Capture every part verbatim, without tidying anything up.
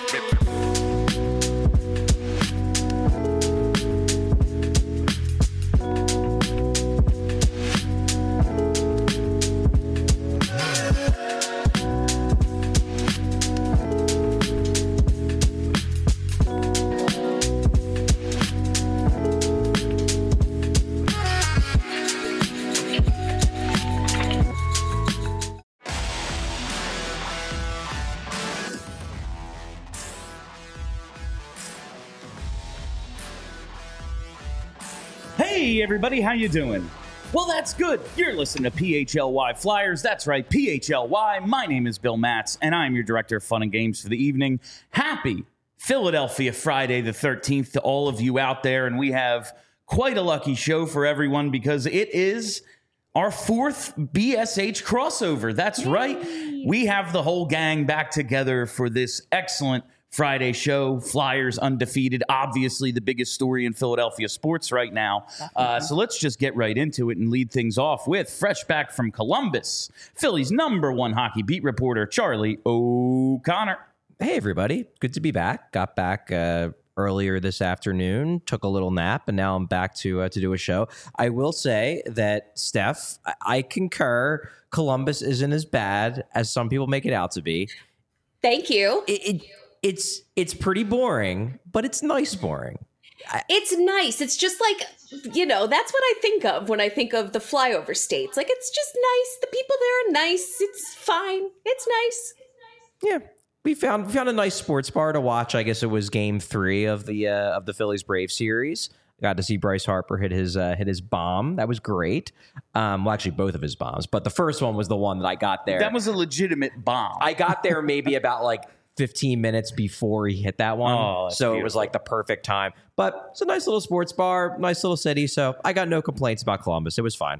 Hey everybody, how you doing? Well, that's good. You're listening to P H L Y Flyers. That's right, P H L Y. My name is Bill Matz, and I'm your director of fun and games for the evening. Happy Philadelphia Friday the thirteenth to all of you out there, and we have quite a lucky show for everyone because it is our fourth B S H crossover. That's Yay. right. We have the whole gang back together for this excellent Friday show. Flyers undefeated, obviously the biggest story in Philadelphia sports right now. Uh, so let's just get right into it and lead things off with fresh back from Columbus, Philly's number one hockey beat reporter, Charlie O'Connor. Hey, everybody. Good to be back. Got back uh, earlier this afternoon, took a little nap, and now I'm back to uh, to do a show. I will say that, Steph, I, I concur. Columbus isn't as bad as some people make it out to be. Thank you. It, it, It's it's pretty boring, but it's nice boring. I, it's nice. It's just like, you know, that's what I think of when I think of the flyover states. Like, it's just nice. The people there are nice. It's fine. It's nice. Yeah, we found found a nice sports bar to watch. I guess it was Game Three of the uh, of the Phillies Brave series. Got to see Bryce Harper hit his uh, hit his bomb. That was great. Um, well, actually, both of his bombs, but the first one was the one that I got there. That was a legitimate bomb. I got there maybe about like fifteen minutes before he hit that one. Oh, so beautiful. It was like the perfect time. But it's a nice little sports bar, nice little city. So I got no complaints about Columbus. It was fine.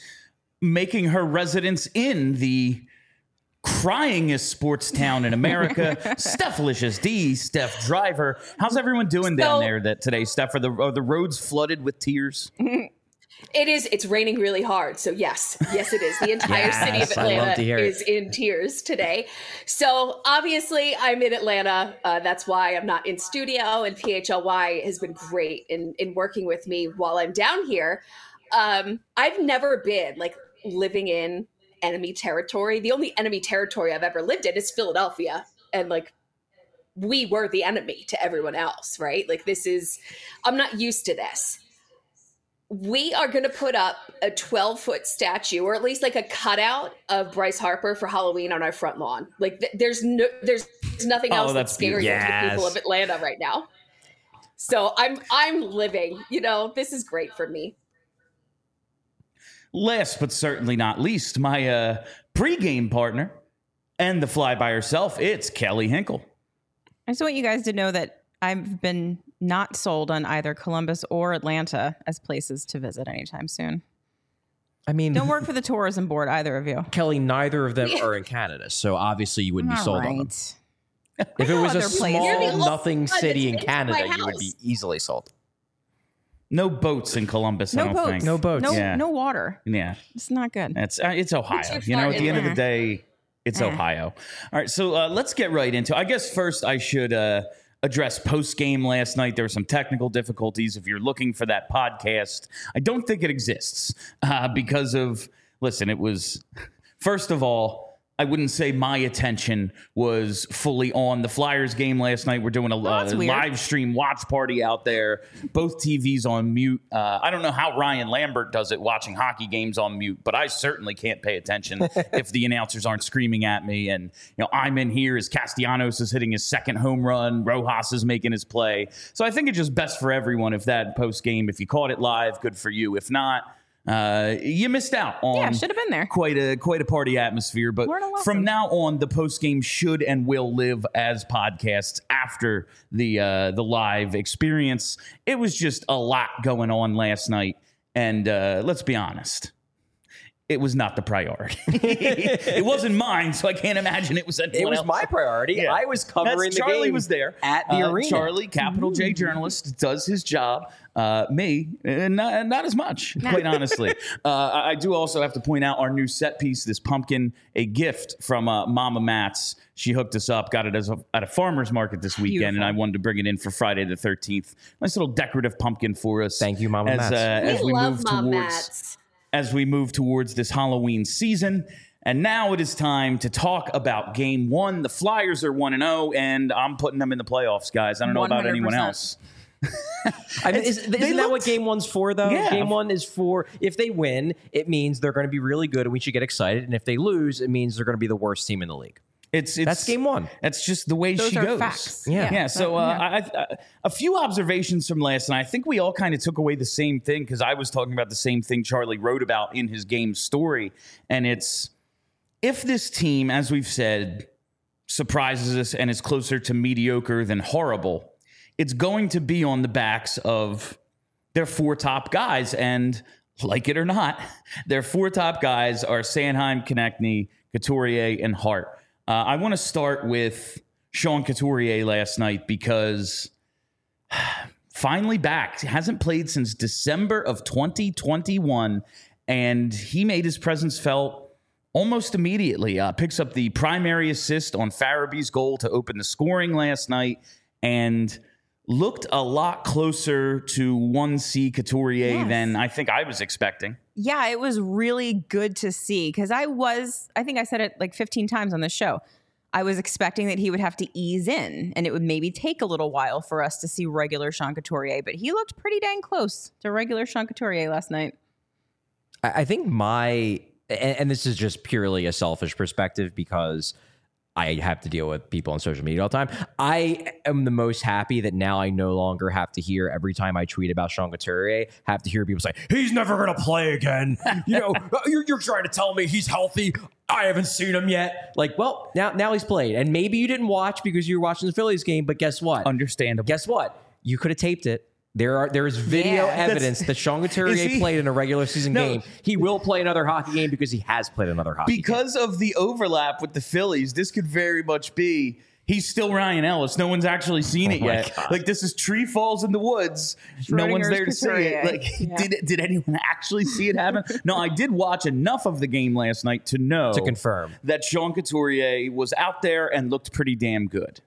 Making her residence in the cryingest sports town in America, Steph-licious D, Steph Driver. How's everyone doing down so, there that today, Steph? Are the, are the roads flooded with tears? It is. It's raining really hard. So yes, yes, it is. The entire yes, city of Atlanta is in tears today. So obviously I'm in Atlanta. Uh, that's why I'm not in studio, and P H L Y has been great in, in working with me while I'm down here. Um, I've never been like living in enemy territory. The only enemy territory I've ever lived in is Philadelphia. And like, we were the enemy to everyone else, right? Like this is, I'm not used to this. We are going to put up a twelve foot statue, or at least like a cutout of Bryce Harper for Halloween on our front lawn. Like th- there's no, there's nothing else oh, that's, that's scarier yes. to the people of Atlanta right now. So I'm, I'm living, you know, this is great for me. Last but certainly not least, my uh, pregame partner and the fly by herself, it's Kelly Hinkle. I just want you guys to know that I've been not sold on either Columbus or Atlanta as places to visit anytime soon. I mean, don't work for the tourism board, either of you. Kelly, neither of them are in Canada, so obviously you wouldn't be All sold right. on them. If it was a small nothing city in Canada, you would be easily sold. No boats in Columbus, no I don't boats. think. No boats. No, yeah. no water. Yeah. It's not good. It's, uh, it's Ohio. You know, at the end of the day, it's eh. Ohio. All right, so uh, let's get right into it. I guess first I should uh, address post-game last night. There were some technical difficulties. If you're looking for that podcast, I don't think it exists uh, because of, listen, it was, first of all, I wouldn't say my attention was fully on the Flyers game last night. We're doing a oh, uh, live stream watch party out there. Both T Vs on mute. Uh, I don't know how Ryan Lambert does it watching hockey games on mute, but I certainly can't pay attention if the announcers aren't screaming at me. And, you know, I'm in here as Castellanos is hitting his second home run. Rojas is making his play. So I think it's just best for everyone if that post game, if you caught it live, good for you. If not, Uh, you missed out on yeah, should have been there. Quite a quite a party atmosphere, but from now on, the post game should and will live as podcasts after the uh, the live experience. It was just a lot going on last night, and uh, let's be honest, it was not the priority. It wasn't mine, so I can't imagine it was anyone It was else. my priority. Yeah. I was covering That's, the Charlie game was there at the Uh, arena. Charlie, capital J journalist, does his job. Uh, me, uh, not, not as much, quite honestly. Uh, I I do also have to point out our new set piece, this pumpkin, a gift from uh, Mama Matt's. She hooked us up, got it as a, at a farmer's market this weekend, Beautiful. and I wanted to bring it in for Friday the thirteenth. Nice little decorative pumpkin for us. Thank you, Mama as, Matt's. Uh, We as we love move Mom towards Matt's. as we move towards this Halloween season. And now it is time to talk about game one. The Flyers are one and oh, and I'm putting them in the playoffs, guys. I don't know about anyone one hundred else. I mean, is, isn't they that what looked- game one's for, though? Yeah. Game one is for, if they win, it means they're going to be really good and we should get excited. And if they lose, it means they're going to be the worst team in the league. It's, it's That's game one. That's just the way Those she are goes. facts. Yeah. Yeah. So uh, I, I, a few observations from last night. I think we all kind of took away the same thing because I was talking about the same thing Charlie wrote about in his game story. And it's if this team, as we've said, surprises us and is closer to mediocre than horrible, it's going to be on the backs of their four top guys. And like it or not, their four top guys are Sanheim, Konechny, Couturier, and Hart. Uh, I want to start with Sean Couturier last night because finally back. He hasn't played since December of twenty twenty-one, and he made his presence felt almost immediately. Uh, picks up the primary assist on Farabee's goal to open the scoring last night and looked a lot closer to one C Couturier Yes. than I think I was expecting. Yeah, it was really good to see because I was, I think I said it like fifteen times on the show. I was expecting that he would have to ease in and it would maybe take a little while for us to see regular Sean Couturier, but he looked pretty dang close to regular Sean Couturier last night. I I think my, and, and this is just purely a selfish perspective because I have to deal with people on social media all the time. I am the most happy that now I no longer have to hear every time I tweet about Sean Couturier, have to hear people say, he's never going to play again. You know, you're, you're trying to tell me he's healthy. I haven't seen him yet. Like, well, now, now he's played. And maybe you didn't watch because you were watching the Phillies game, but guess what? Understandable. Guess what? You could have taped it. There are there is video Yeah. evidence that Sean Couturier Is he- played in a regular season No. game. He will play another hockey game because he has played another hockey game. Because of the overlap with the Phillies, this could very much be he's still Ryan Ellis. No one's actually seen it my yet. God. Like this is tree falls in the woods. No one's Schrodinger's there to see it. Couturier. Like Yeah. did did anyone actually see it happen? No, I did watch enough of the game last night to know To confirm. that Sean Couturier was out there and looked pretty damn good.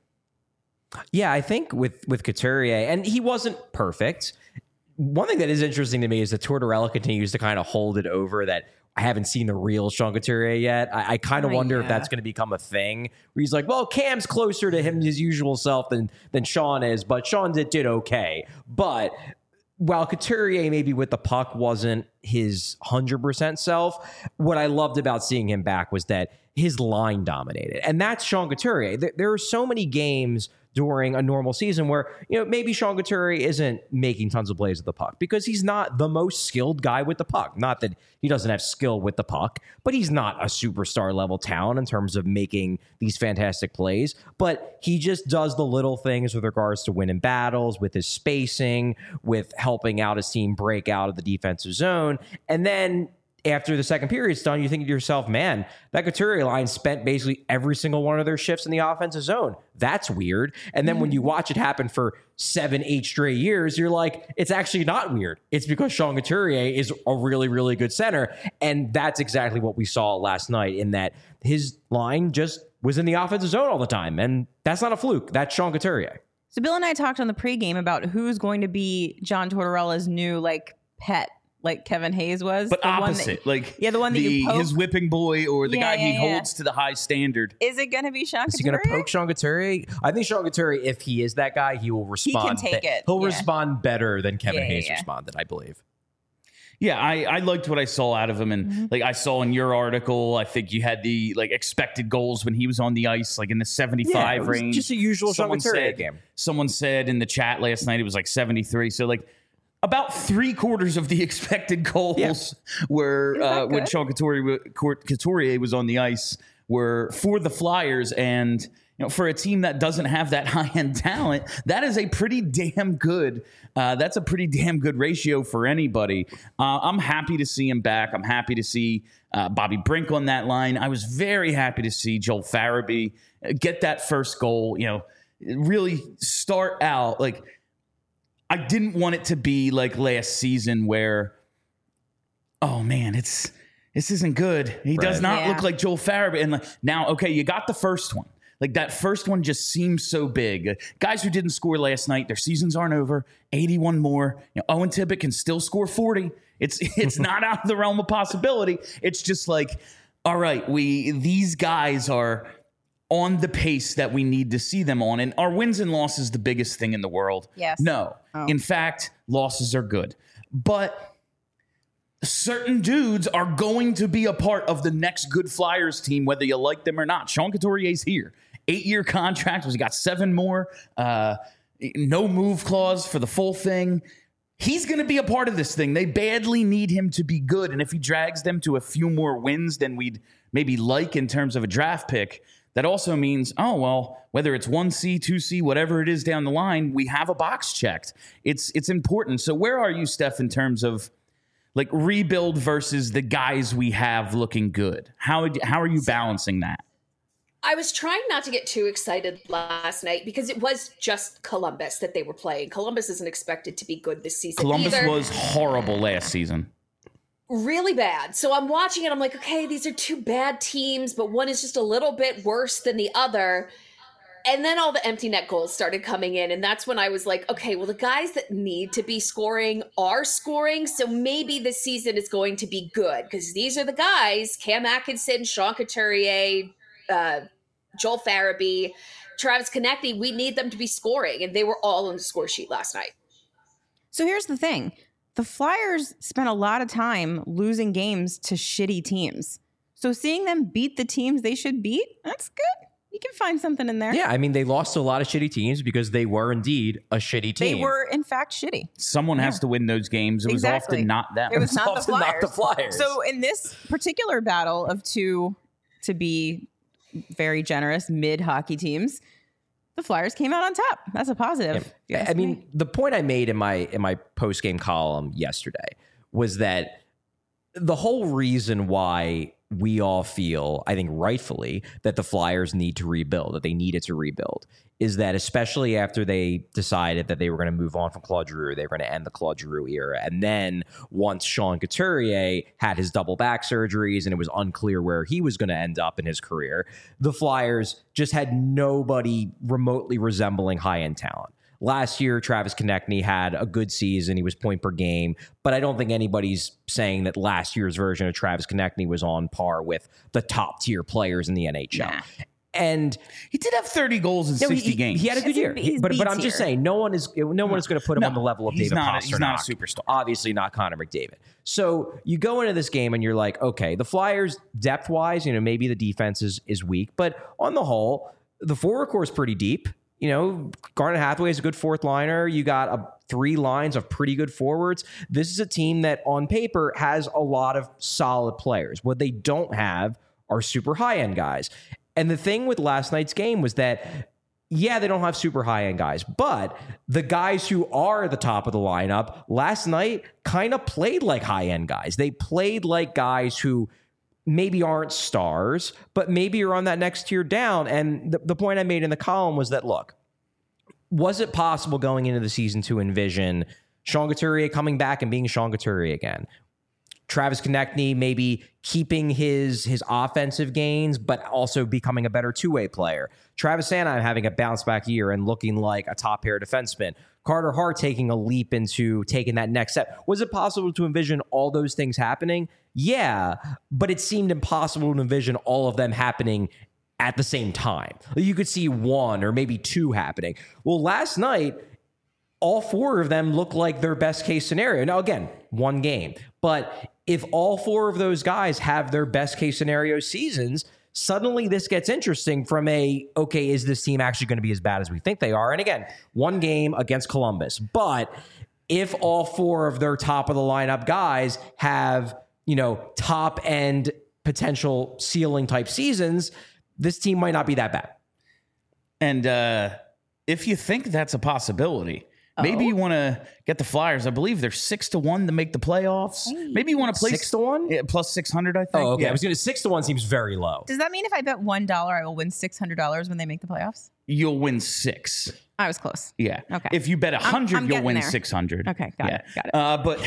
Yeah, I think with with Couturier, and he wasn't perfect. One thing that is interesting to me is that Tortorella continues to kind of hold it over that I haven't seen the real Sean Couturier yet. I, I kind of Oh, wonder if yeah. that's going to become a thing where he's like, well, Cam's closer to him his usual self than than Sean is, but Sean did, did okay. But while Couturier maybe with the puck wasn't his one hundred percent self, what I loved about seeing him back was that his line dominated. And that's Sean Couturier. There, there are so many games during a normal season where, you know, maybe Sean Couturier isn't making tons of plays with the puck because he's not the most skilled guy with the puck. Not that he doesn't have skill with the puck, but he's not a superstar level talent in terms of making these fantastic plays. But he just does the little things with regards to winning battles, with his spacing, with helping out his team break out of the defensive zone. And then after the second period's done, you think to yourself, man, that Couturier line spent basically every single one of their shifts in the offensive zone. That's weird. And then when you watch it happen for seven, eight straight years, you're like, it's actually not weird. It's because Sean Couturier is a really, really good center. And that's exactly what we saw last night in that his line just was in the offensive zone all the time. And that's not a fluke. That's Sean Couturier. So Bill and I talked on the pregame about who's going to be John Tortorella's new like pet, like Kevin Hayes was. But the one opposite, that- like yeah, the one that the, you poke. his whipping boy or the Yeah, guy he yeah, yeah. holds to the high standard. Is it going to be Sean Is he Couturier? going to poke Sean Couturier? I think Sean Couturier, if he is that guy, he will respond. take it, He'll yeah. respond better than Kevin Yeah, yeah, Hayes yeah. responded, I believe. Yeah, I, I liked what I saw out of him, and Mm-hmm. like I saw in your article, I think you had the like expected goals when he was on the ice, like in the seventy-five it was range. just a usual Sean Someone Couturier said- game. Someone said in the chat last night it was like seventy-three. So like about three quarters of the expected goals Yeah. were Is that uh, when good? Sean Couturier, Couturier was on the ice were for the Flyers, and you know, for a team that doesn't have that high end talent, that is a pretty damn good. Uh, that's a pretty damn good ratio for anybody. Uh, I'm happy to see him back. I'm happy to see uh, Bobby Brink on that line. I was very happy to see Joel Farabee get that first goal, you know, really start out. Like, I didn't want it to be like last season where, oh man, it's this isn't good. He right. does not yeah. look like Joel Farabee. And like, now, okay, you got the first one. Like, that first one just seems so big. Guys who didn't score last night, their seasons aren't over. eighty-one more. You know, Owen Tippett can still score forty. It's it's not out of the realm of possibility. It's just like, all right, we these guys are on the pace that we need to see them on. And are wins and losses the biggest thing in the world? Yes. No. Oh. In fact, losses are good. But certain dudes are going to be a part of the next good Flyers team, whether you like them or not. Sean Couturier's here. Eight-year contract. He's got seven more. Uh, no move clause for the full thing. He's going to be a part of this thing. They badly need him to be good. And if he drags them to a few more wins than we'd maybe like in terms of a draft pick, that also means, oh, well, whether it's one C, two C, whatever it is down the line, we have a box checked. It's it's important. So where are you, Steph, in terms of like rebuild versus the guys we have looking good? How how are you balancing that? I was trying not to get too excited last night because it was just Columbus that they were playing. Columbus isn't expected to be good this season Columbus either. was horrible last season. Really bad. So I'm watching it. I'm like, okay, these are two bad teams, but one is just a little bit worse than the other. And then all the empty net goals started coming in. And that's when I was like, okay, well, the guys that need to be scoring are scoring. So maybe this season is going to be good because these are the guys, Cam Atkinson, Sean Couturier, uh, Joel Farabee, Travis Konecny. We need them to be scoring. And they were all on the score sheet last night. So here's the thing. The Flyers spent a lot of time losing games to shitty teams. So seeing them beat the teams they should beat, that's good. You can find something in there. Yeah, I mean, they lost to a lot of shitty teams because they were indeed a shitty team. They were, in fact, shitty. Someone yeah. has to win those games. It exactly. was often not them. It was, it was not, often the not the Flyers. So in this particular battle of two, to be very generous, mid-hockey teams, the Flyers came out on top. That's a positive. Yeah. I mean, the point I made in my in my post-game column yesterday was that the whole reason why we all feel, I think rightfully, that the Flyers need to rebuild, that they needed to rebuild, is that especially after they decided that they were going to move on from Claude Giroux, they were going to end the Claude Giroux era. And then once Sean Couturier had his double back surgeries and it was unclear where he was going to end up in his career, the Flyers just had nobody remotely resembling high-end talent. Last year, Travis Konecny had a good season. He was point per game. But I don't think anybody's saying that last year's version of Travis Konecny was on par with the top tier players in the N H L. Nah. And he did have thirty goals in no, sixty he, games. He had a good year. He's but but I'm just saying, no one is no one is going to put him no, on the level of David not, Pastrnak. He's not a superstar. Obviously not Connor McDavid. So you go into this game and you're like, okay, the Flyers depth-wise, you know, maybe the defense is, is weak. But on the whole, the forward core is pretty deep. You know, Garnet Hathaway is a good fourth liner. You got a, three lines of pretty good forwards. This is a team that on paper has a lot of solid players. What they don't have are super high-end guys. And the thing with last night's game was that, yeah, they don't have super high-end guys, but the guys who are at the top of the lineup last night kind of played like high-end guys. They played like guys who maybe aren't stars, but maybe are on that next tier down. And the, the point I made in the column was that, look, was it possible going into the season to envision Sean Couturier coming back and being Sean Couturier again? Travis Konecny maybe keeping his his offensive gains, but also becoming a better two-way player. Travis Sanheim having a bounce-back year and looking like a top-pair defenseman. Carter Hart taking a leap into taking that next step. Was it possible to envision all those things happening? Yeah, but it seemed impossible to envision all of them happening at the same time. You could see one or maybe two happening. Well, last night, all four of them look like their best case scenario. Now, again, one game. But if all four of those guys have their best case scenario seasons, suddenly this gets interesting from a, okay, is this team actually going to be as bad as we think they are? And again, one game against Columbus. But if all four of their top of the lineup guys have, you know, top end potential ceiling type seasons, this team might not be that bad. And uh, if you think that's a possibility, Maybe Oh. you want to get the Flyers. I believe they're six to one to make the playoffs. Maybe you want to play Six to one? Yeah, plus six hundred. I think. Oh, okay. Yeah. I was going to six to one seems very low. Does that mean if I bet one dollar, I will win six hundred dollars when they make the playoffs? You'll win six. I was close. Yeah. Okay. If you bet a I'm hundred, you'll getting win there. six hundred. Okay, got yeah. it, got it. Uh, but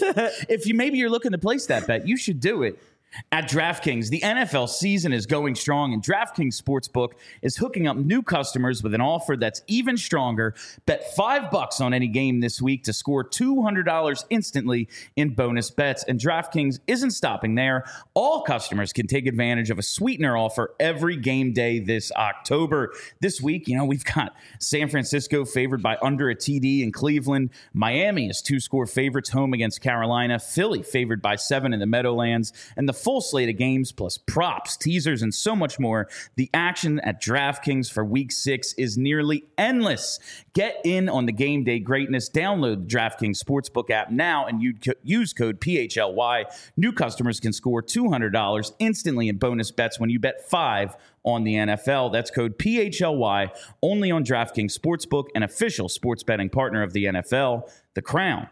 if you maybe you're looking to place that bet, you should do it at DraftKings. The N F L season is going strong, and DraftKings Sportsbook is hooking up new customers with an offer that's even stronger. Bet five bucks on any game this week to score two hundred dollars instantly in bonus bets. And DraftKings isn't stopping there. All customers can take advantage of a sweetener offer every game day this October. This week, you know, we've got San Francisco favored by under a T D in Cleveland. Miami is two-score favorites home against Carolina. Philly favored by seven in the Meadowlands. And the full slate of games plus props, teasers, and so much more. The action at DraftKings for week six is nearly endless. Get in on the game day greatness. Download the DraftKings Sportsbook app now and you use code P H L Y. New customers can score two hundred dollars instantly in bonus bets when you bet five on the N F L. That's code P H L Y only on DraftKings Sportsbook, an official sports betting partner of the N F L. The crown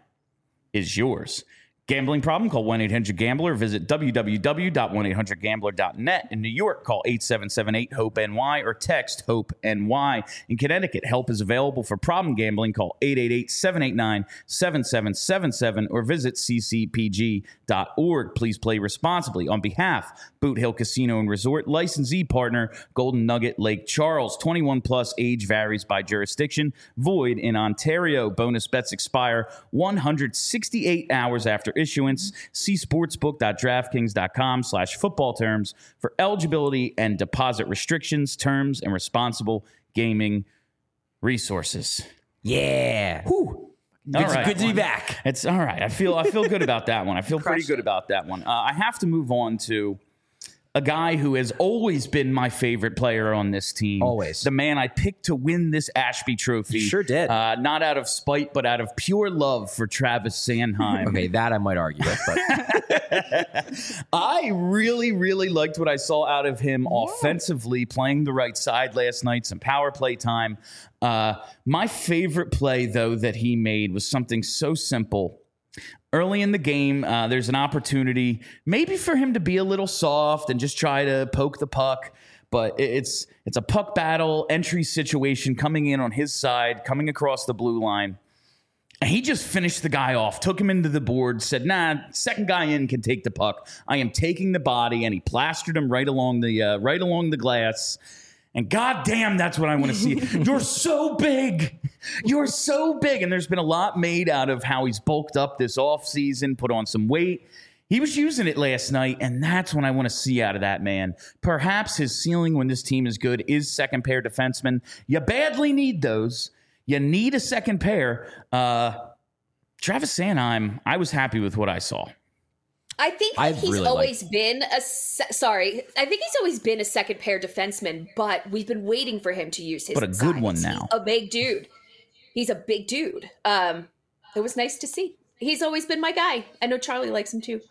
is yours. Gambling problem? Call one eight hundred gambler. Visit w w w dot one eight hundred gambler dot net. In New York, call eight seven seven eight hope N Y or text HOPE-N Y. In Connecticut, help is available for problem gambling. Call eight eight eight, seven eight nine, seven seven seven seven or visit c c p g dot org. Please play responsibly. On behalf, Boot Hill Casino and Resort, licensee partner, Golden Nugget Lake Charles. twenty-one plus, age varies by jurisdiction. Void in Ontario. Bonus bets expire one hundred sixty-eight hours after issuance. See sportsbook dot draftkings dot com slash football terms for eligibility and deposit restrictions, terms, and responsible gaming resources. Yeah. Whew. Good, All to, right. good to be back. It's all right. I feel I feel good about that one. I feel pretty Crushed good it. about that one. Uh, I have to move on to a guy who has always been my favorite player on this team. Always. The man I picked to win this Ashby Trophy. You sure did. Uh, not out of spite, but out of pure love for Travis Sanheim. Okay, that I might argue with, but I really, really liked what I saw out of him offensively, playing the right side last night, some power play time. Uh, my favorite play, though, that he made was something so simple. Early in the game, uh, there's an opportunity maybe for him to be a little soft and just try to poke the puck. But it- it's it's a puck battle, entry situation coming in on his side, coming across the blue line. And he just finished the guy off, took him into the board, said, nah, second guy in can take the puck. I am taking the body, and he plastered him right along the uh, right along the glass. And goddamn, that's what I want to see. You're so big. You're so big. And there's been a lot made out of how he's bulked up this offseason, put on some weight. He was using it last night, and that's what I want to see out of that man. Perhaps his ceiling when this team is good is second pair defensemen. You badly need those. You need a second pair. Uh, Travis Sanheim, I was happy with what I saw. I think I he's really always been a se- sorry. I think he's always been a second pair defenseman, but we've been waiting for him to use his. But a good size. one He's now. a big dude. He's a big dude. Um, it was nice to see. He's always been my guy. I know Charlie likes him too.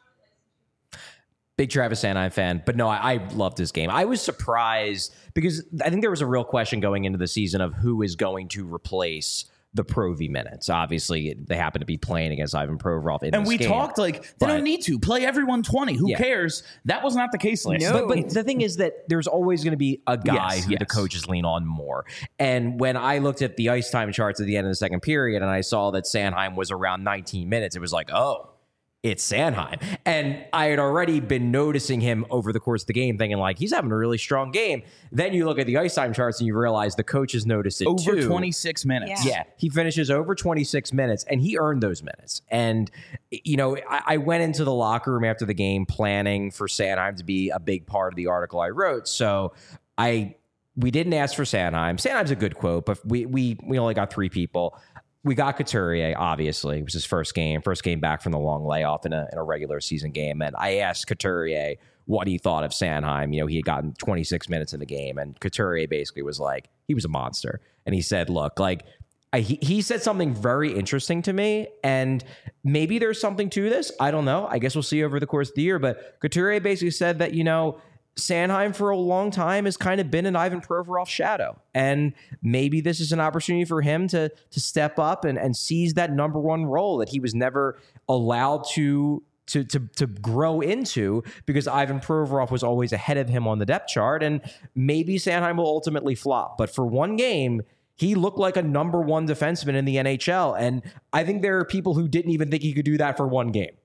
big Travis Sanheim fan. But no, I, I loved his game. I was surprised because I think there was a real question going into the season of who is going to replace the Provy minutes. Obviously, they happen to be playing against Ivan Provorov in And this we game. talked like, they But- don't need to. Play everyone twenty. Who Yeah. cares? That was not the case last No. night. But, but the thing is that there's always going to be a guy Yes, who the yes. coaches lean on more. And when I looked at the ice time charts at the end of the second period and I saw that Sanheim was around nineteen minutes, it was like, oh, it's Sanheim. And I had already been noticing him over the course of the game, thinking like, he's having a really strong game. Then you look at the ice time charts and you realize the coaches noticed it Over too. twenty-six minutes. Yeah. Yeah, he finishes over twenty-six minutes, and he earned those minutes. And, you know, I, I went into the locker room after the game planning for Sanheim to be a big part of the article I wrote. So I we didn't ask for Sanheim. Sanheim's a good quote, but we we we only got three people. We got Couturier, obviously. It was his first game, first game back from the long layoff in a, in a regular season game. And I asked Couturier what he thought of Sanheim. You know, he had gotten twenty-six minutes in the game, and Couturier basically was like, he was a monster. And he said, look, like, I, he, he said something very interesting to me, and maybe there's something to this. I don't know. I guess we'll see over the course of the year. But Couturier basically said that, you know, Sanheim for a long time has kind of been an Ivan Provorov's shadow. And maybe this is an opportunity for him to, to step up and, and seize that number one role that he was never allowed to, to, to, to grow into because Ivan Provorov was always ahead of him on the depth chart. And maybe Sanheim will ultimately flop. But for one game, he looked like a number one defenseman in the N H L. And I think there are people who didn't even think he could do that for one game.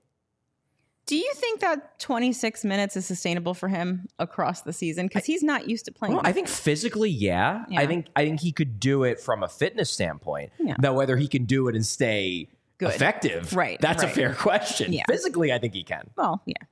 Do you think that twenty-six minutes is sustainable for him across the season? Because he's not used to playing. Well, I think physically, yeah. yeah. I think I think he could do it from a fitness standpoint. Yeah. Now, whether he can do it and stay Good. effective, right? That's right. a fair question. Yeah. Physically, I think he can. Well, yeah.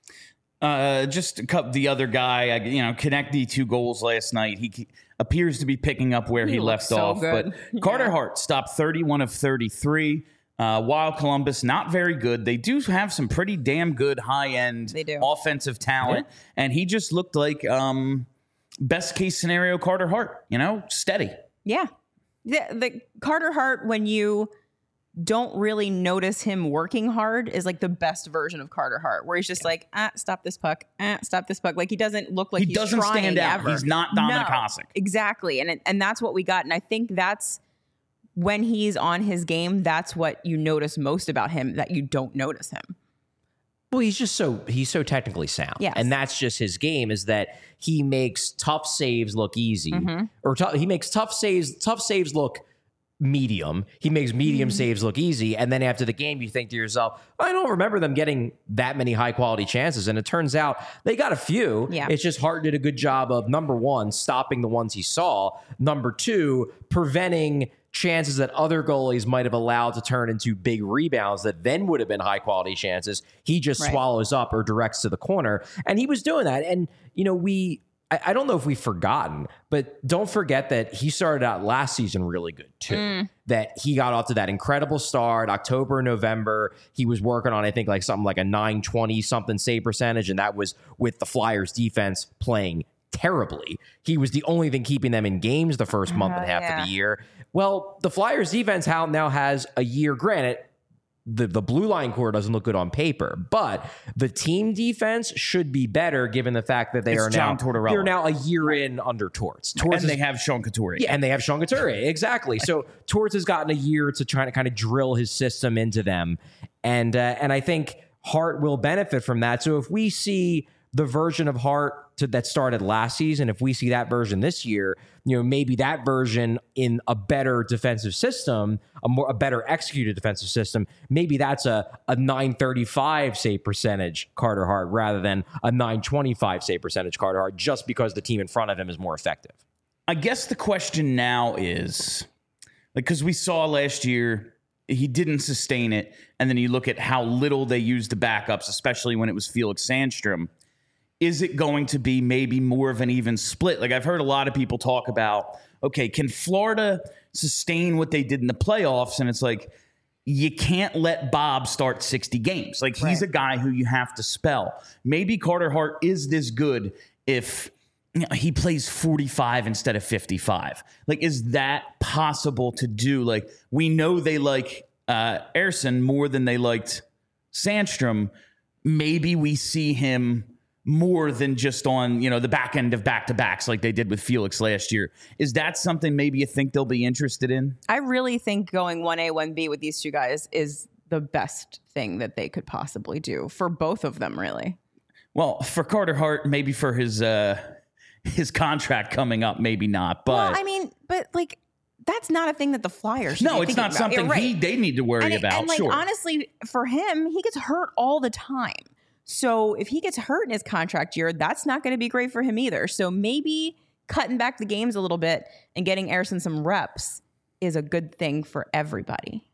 Uh, just a couple, the other guy, you know, Konechny two goals last night. He appears to be picking up where he, he left so off. Good. But yeah. Carter Hart stopped thirty-one of thirty-three. Uh, while Columbus, not very good. They do have some pretty damn good high-end They do. offensive talent. Yeah. And he just looked like um, best-case scenario Carter Hart, you know, steady. Yeah. The, the Carter Hart, when you don't really notice him working hard, is like the best version of Carter Hart, where he's just yeah. like, ah, stop this puck, ah, stop this puck. Like he doesn't look like he he's doesn't trying stand out. Ever. He's not Dominik no, Hasek. Exactly. And, it, and that's what we got. And I think that's when he's on his game, that's what you notice most about him, that you don't notice him. Well, he's just so he's so technically sound. Yes. And that's just his game, is that he makes tough saves look easy. Mm-hmm. Or t- he makes tough saves, tough saves look medium. He makes medium mm-hmm. saves look easy. And then after the game, you think to yourself, I don't remember them getting that many high quality chances. And it turns out they got a few. Yeah. It's just Hart did a good job of, number one, stopping the ones he saw. Number two, preventing chances that other goalies might have allowed to turn into big rebounds that then would have been high quality chances. He just right. swallows up or directs to the corner. And he was doing that. And, you know, we, I, I don't know if we've forgotten, but don't forget that he started out last season really good too. Mm. That he got off to that incredible start, October, November. He was working on, I think, like something like a nine twenty something save percentage. And that was with the Flyers defense playing terribly. He was the only thing keeping them in games the first month uh, and a half yeah. of the year. Well, the Flyers defense now has a year. Granted, the, the blue line core doesn't look good on paper, but the team defense should be better given the fact that they it's are John now Tortorella. They're now a year in under Torts. Torts and is, they have Sean Couturier. Yeah, and they have Sean Couturier. Exactly. So Torts has gotten a year to try to kind of drill his system into them. And, uh, and I think Hart will benefit from that. So if we see the version of Hart to, that started last season, if we see that version this year, you know, maybe that version in a better defensive system, a more a better executed defensive system, maybe that's a, a nine thirty-five save percentage Carter Hart rather than a nine twenty-five save percentage Carter Hart, just because the team in front of him is more effective. I guess the question now is, like, because we saw last year he didn't sustain it, and then you look at how little they used the backups, especially when it was Felix Sandstrom. Is it going to be maybe more of an even split? Like, I've heard a lot of people talk about, okay, can Florida sustain what they did in the playoffs? And it's like, you can't let Bob start sixty games. Like, he's right. a guy who you have to spell. Maybe Carter Hart is this good if you know, he plays forty-five instead of fifty-five. Like, is that possible to do? Like, we know they like uh, Ersson more than they liked Sandstrom. Maybe we see him more than just on, you know, the back end of back-to-backs like they did with Felix last year. Is that something maybe you think they'll be interested in? I really think going one A, one B with these two guys is the best thing that they could possibly do for both of them, really. Well, for Carter Hart, maybe for his uh, his contract coming up, maybe not. But well, I mean, but like, that's not a thing that the Flyers should no, be it's not about. something right. he they need to worry and it, about. And like, sure. honestly, for him, he gets hurt all the time. So if he gets hurt in his contract year, that's not going to be great for him either. So maybe cutting back the games a little bit and getting Ersson some reps is a good thing for everybody.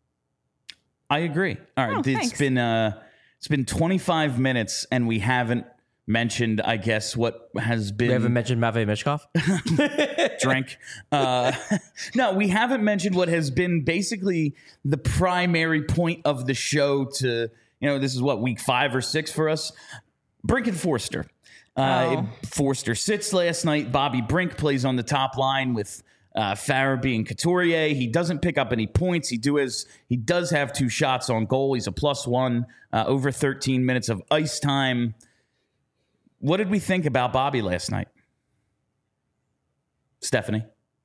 I agree. All right, oh, it's thanks. been uh, it's been twenty-five minutes, and we haven't mentioned, I guess, what has been. We haven't mentioned Matvei Michkov. Drink. Uh, no, we haven't mentioned what has been basically the primary point of the show. To you know, this is what, week five or six for us. Brink and Forster. Uh, oh. Forster sits last night. Bobby Brink plays on the top line with uh, Farabee and Couturier. He doesn't pick up any points. He do has he does have two shots on goal. He's a plus one, uh, over thirteen minutes of ice time. what did we think about Bobby last night? Stephanie?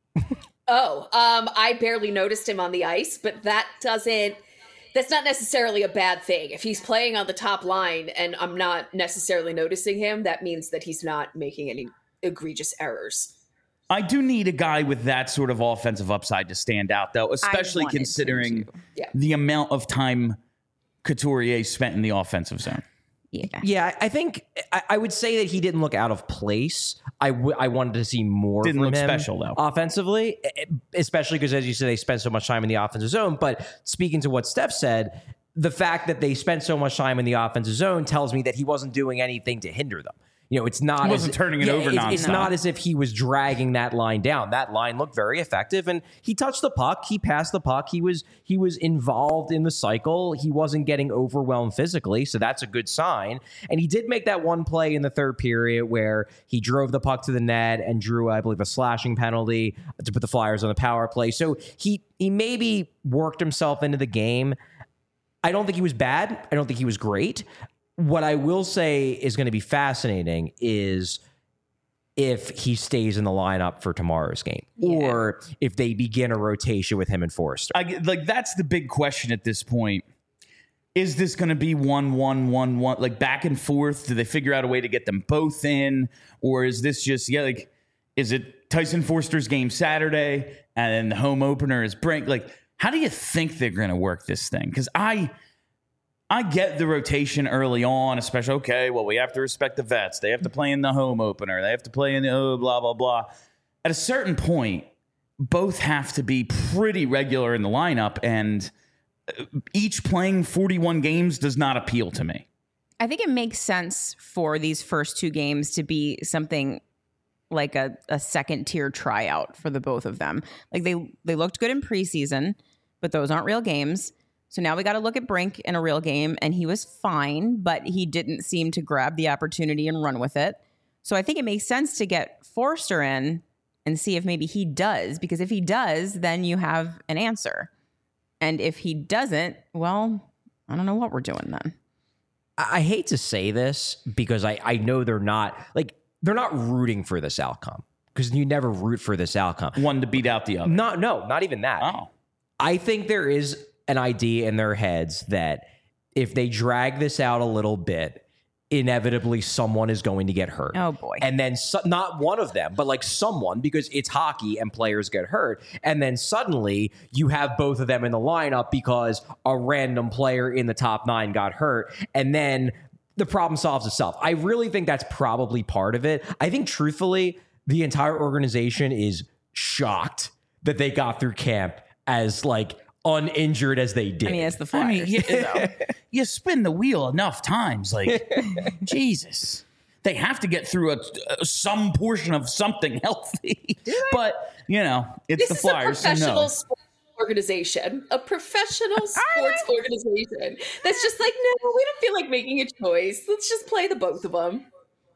Oh, um, I barely noticed him on the ice, but that doesn't, that's not necessarily a bad thing. If he's playing on the top line and I'm not necessarily noticing him, that means that he's not making any egregious errors. I do need a guy with that sort of offensive upside to stand out, though, especially considering yeah. the amount of time Couturier spent in the offensive zone. Yeah. Yeah, I think I, I would say that he didn't look out of place. I, w- I wanted to see more Didn't from look him special, though. offensively, especially because, as you said, they spend so much time in the offensive zone. But speaking to what Steph said, the fact that they spent so much time in the offensive zone tells me that he wasn't doing anything to hinder them. You know, it's not. He wasn't as, turning it yeah, over It's, nonstop. it's not as if he was dragging that line down. That line looked very effective, and he touched the puck. He passed the puck. He was he was involved in the cycle. He wasn't getting overwhelmed physically, so that's a good sign. And he did make that one play in the third period where he drove the puck to the net and drew, I believe, a slashing penalty to put the Flyers on the power play. So he he maybe worked himself into the game. I don't think he was bad. I don't think he was great. What I will say is going to be fascinating is if he stays in the lineup for tomorrow's game, yeah. or if they begin a rotation with him and Forster. I, like that's the big question at this point. Is this going to be one, one, one, one, like back and forth? Do they figure out a way to get them both in, or is this just yeah? Like, is it Tyson Forster's game Saturday and then the home opener is Brink? Like, how do you think they're going to work this thing? Because I. I get the rotation early on, especially, okay, well, we have to respect the vets. They have to play in the home opener. They have to play in the oh, blah, blah, blah. At a certain point, both have to be pretty regular in the lineup, and each playing forty-one games does not appeal to me. I think it makes sense for these first two games to be something like a, a second-tier tryout for the both of them. Like, they, they looked good in preseason, but those aren't real games. So now we got to look at Brink in a real game, and he was fine, but he didn't seem to grab the opportunity and run with it. So I think it makes sense to get Forster in and see if maybe he does, because if he does, then you have an answer. And if he doesn't, well, I don't know what we're doing then. I hate to say this because I, I know they're not like they're not rooting for this outcome, because you never root for this outcome. One to beat out the other. Not, no, not even that. Oh. I think there is an idea in their heads that if they drag this out a little bit, inevitably someone is going to get hurt. Oh, boy. And then so, not one of them, but like someone, because it's hockey and players get hurt. And then suddenly you have both of them in the lineup because a random player in the top nine got hurt. And then the problem solves itself. I really think that's probably part of it. I think truthfully, the entire organization is shocked that they got through camp as like uninjured as they did. I mean, as the Flyers. I mean, you, you spin the wheel enough times, like, Jesus. They have to get through a, a, some portion of something healthy. But, you know, it's this the Flyers. This is a professional so no. sports organization. A professional sports organization. That's just like, no, we don't feel like making a choice. Let's just play the both of them.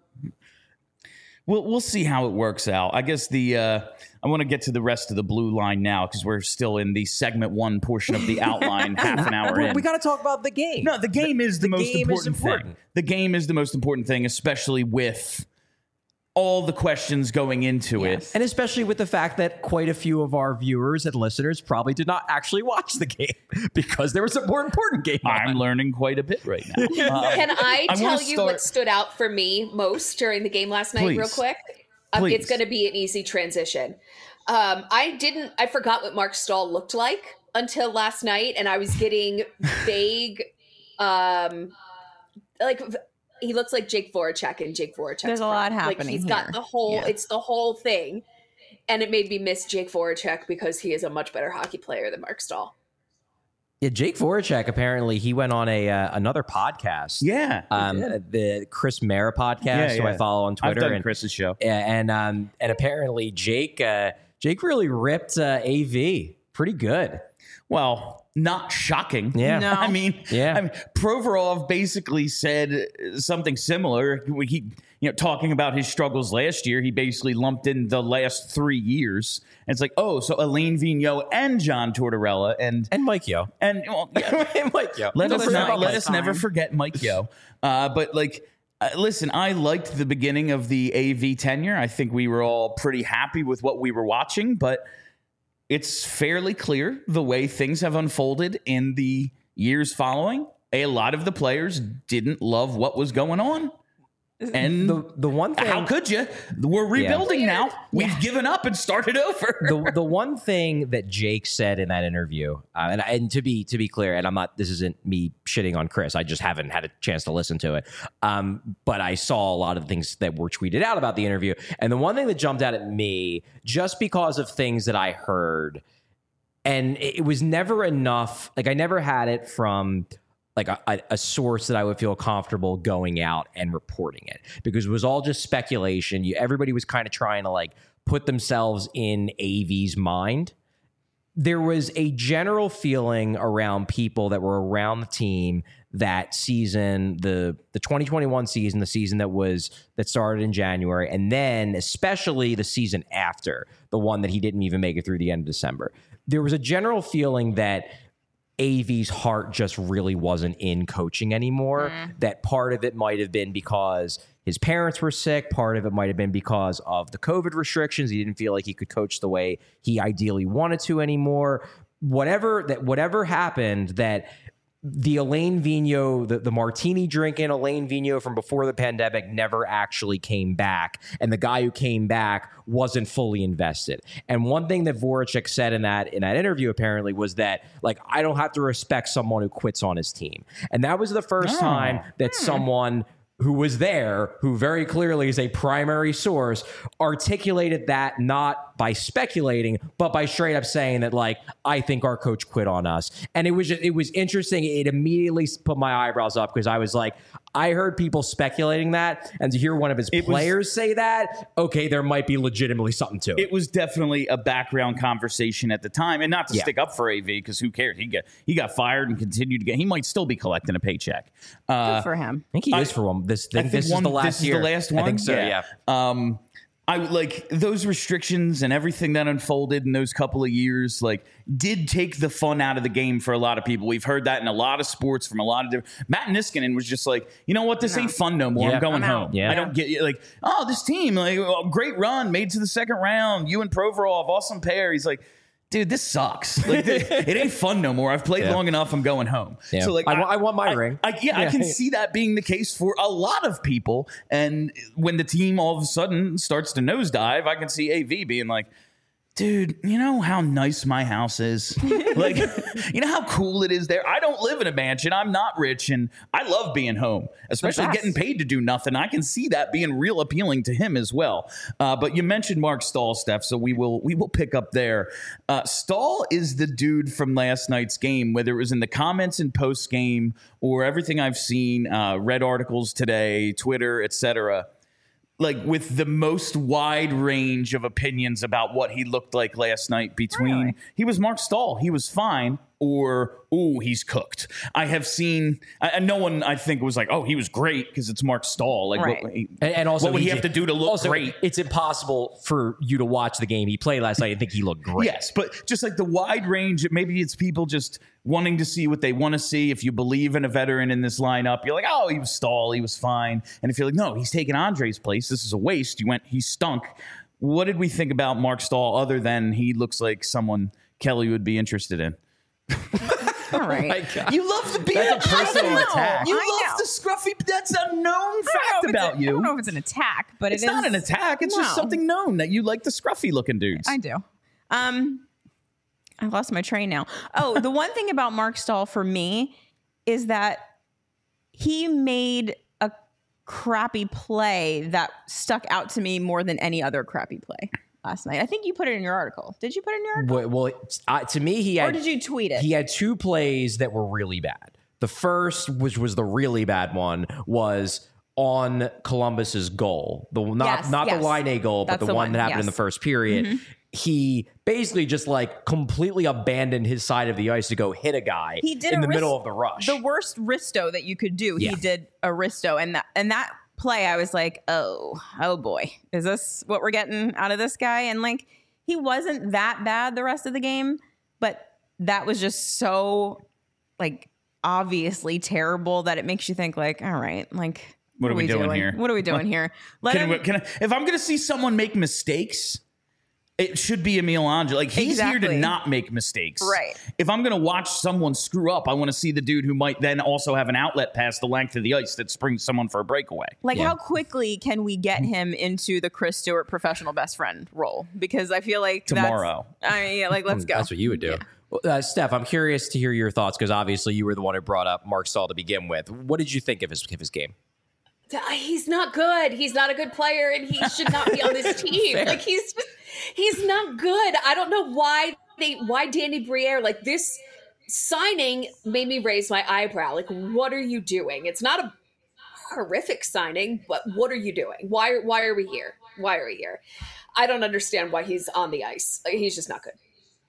We'll, we'll see how it works out. I guess the uh, I want to get to the rest of the blue line now because we're still in the segment one portion of the outline, half an hour in. We got to talk about the game. No, the game the, is the, the most game important, is important thing. The game is the most important thing, especially with all the questions going into yes. it. And especially with the fact that quite a few of our viewers and listeners probably did not actually watch the game because there was a more important game on. I'm learning quite a bit right now. Um, Can I I tell wanna you start- what stood out for me most during the game last night, Please. real quick? Um, Please. it's going to be an easy transition. Um, I didn't, I forgot what Mark Stahl looked like until last night, and I was getting vague, um, like he looks like Jake Voracek and Jake Voracek. There's a lot Like happening he's here. got the whole, Yeah. it's the whole thing, and it made me miss Jake Voracek because he is a much better hockey player than Mark Stahl. Yeah, Jake Voracek, apparently he went on a uh, another podcast. yeah. Um, the Chris Mayer podcast, Yeah, who yeah. I follow on Twitter. I've done and, Chris's show. and um, and apparently Jake uh, Jake really ripped uh, A V pretty good. Well, not shocking. Yeah. No. I mean, Yeah. I mean, Provorov basically said something similar. He, you know, talking about his struggles last year, he basically lumped in the last three years. And it's like, oh, so Alain Vigneault and John Tortorella and And Mike Yo. and well, yeah, and Mike Yo. let Don't us forget not about let Mike. us never forget Mike Yo. Uh, but like Uh, listen, I liked the beginning of the A V tenure. I think we were all pretty happy with what we were watching, but it's fairly clear the way things have unfolded in the years following. A lot of the players didn't love what was going on. And The the one thing, how could you? We're rebuilding now. We've given up and started over. the the one thing that Jake said in that interview, uh, and and to be to be clear, and I'm not, this isn't me shitting on Chris. I just haven't had a chance to listen to it. Um, but I saw a lot of the things that were tweeted out about the interview, and the one thing that jumped out at me, just because of things that I heard, and it was never enough. Like I never had it from like a, a source that I would feel comfortable going out and reporting it, because it was all just speculation. You, everybody was kind of trying to like put themselves in A V's mind. There was a general feeling around people that were around the team that season, the the twenty twenty-one season, the season that was that started in January, and then especially the season after, the one that he didn't even make it through the end of December. There was a general feeling that A V's heart just really wasn't in coaching anymore. Mm. That part of it might have been because his parents were sick. Part of it might have been because of the COVID restrictions. He didn't feel like he could coach the way he ideally wanted to anymore. Whatever that, whatever happened, that the Alain Vigneault, the, the martini drinking Alain Vigneault from before the pandemic never actually came back. And the guy who came back wasn't fully invested. And one thing that Voracek said in that in that interview apparently was that, like, I don't have to respect someone who quits on his team. And that was the first oh. time that hmm. someone who was there, who very clearly is a primary source, articulated that not by speculating, but by straight up saying that, like, I think our coach quit on us. And it was just, it was interesting. It immediately put my eyebrows up, because I was like, I heard people speculating that, and to hear one of his it players was, say that, okay, there might be legitimately something to it. It was definitely a background conversation at the time, and not to yeah. stick up for A V, because who cares? He got he got fired and continued to get. He might still be collecting a paycheck. Uh, Good for him. I think he I, is for one. This, I think this one, is the last this year. Is the last one. I think so. Yeah. yeah. Um, I like those restrictions and everything that unfolded in those couple of years, like, did take the fun out of the game for a lot of people. We've heard that in a lot of sports from a lot of different. Matt Niskanen was just like, you know what, this no. ain't fun no more. Yeah. I'm going I'm home. Yeah. I don't get like, oh, this team, like, oh, great run, made to the second round. You and Provorov, awesome pair. He's like, dude, this sucks. Like, it ain't fun no more. I've played yeah. long enough. I'm going home. Yeah. So, like, I, I, I want my I, ring. I, yeah, yeah, I can see that being the case for a lot of people. And when the team all of a sudden starts to nosedive, I can see A V being like, dude, you know how nice my house is? Like, you know how cool it is there? I don't live in a mansion. I'm not rich, and I love being home, especially getting paid to do nothing. I can see that being real appealing to him as well. Uh, but you mentioned Marc Staal, Steph, so we will we will pick up there. Uh, Staal is the dude from last night's game, whether it was in the comments and post-game or everything I've seen, uh, read articles today, Twitter, et cetera, like, with the most wide range of opinions about what he looked like last night between really? He was Marc Staal, he was fine, or, ooh, he's cooked. I have seen, and no one, I think, was like, oh, he was great because it's Marc Staal. Like, right. what, he, and, and also, what would he, he have to do to look also, great? It's impossible for you to watch the game he played last night and think he looked great. Yes, but just like the wide range, maybe it's people just wanting to see what they want to see. If you believe in a veteran in this lineup, you're like, oh, he was Staal, he was fine. And if you're like, no, he's taking Andre's place, this is a waste, you went, he stunk. What did we think about Marc Staal other than he looks like someone Kelly would be interested in? All right. Oh, you love the beard. That's a personal attack. You I love know. the scruffy. That's a known fact about a, you. I don't know if it's an attack, but it's it not is, an attack. It's no. just something known that you like the scruffy looking dudes. I do. Um, I lost my train now. Oh, the one thing about Marc Staal for me is that he made a crappy play that stuck out to me more than any other crappy play last night. I think you put it in your article. Did you put it in your article? Well, well uh, to me, he had. Or did you tweet it? He had two plays that were really bad. The first, which was the really bad one, was on Columbus's goal. The not yes, not yes. the Laine goal, but That's the, the one, one, that happened yes. in the first period. Mm-hmm. He basically just like completely abandoned his side of the ice to go hit a guy he did in the wrist, middle of the rush. The worst wristo that you could do. Yeah. He did a wristo, and that and that play, I was like, oh, oh boy, is this what we're getting out of this guy? And like, he wasn't that bad the rest of the game, but that was just so like obviously terrible that it makes you think like, all right, like What are we, we doing, doing here? What are we doing here? Let can him, we, can I, if I'm going to see someone make mistakes, it should be Emil Angelou. Like, he's exactly. here to not make mistakes. Right. If I'm going to watch someone screw up, I want to see the dude who might then also have an outlet past the length of the ice that springs someone for a breakaway. Like, Yeah. how quickly can we get him into the Chris Stewart professional best friend role? Because I feel like Tomorrow. That's, I mean, yeah, like, let's go. That's what you would do. Yeah. Well, Uh, Steph, I'm curious to hear your thoughts because obviously you were the one who brought up Marc Staal to begin with. What did you think of his of his game? He's not good. He's not a good player, and he should not be on this team. Like, he's just, he's not good. I don't know why they why Danny Briere, like, this signing made me raise my eyebrow. Like, what are you doing? It's not a horrific signing, but what are you doing? Why why are we here? Why are we here? I don't understand why he's on the ice. Like, he's just not good.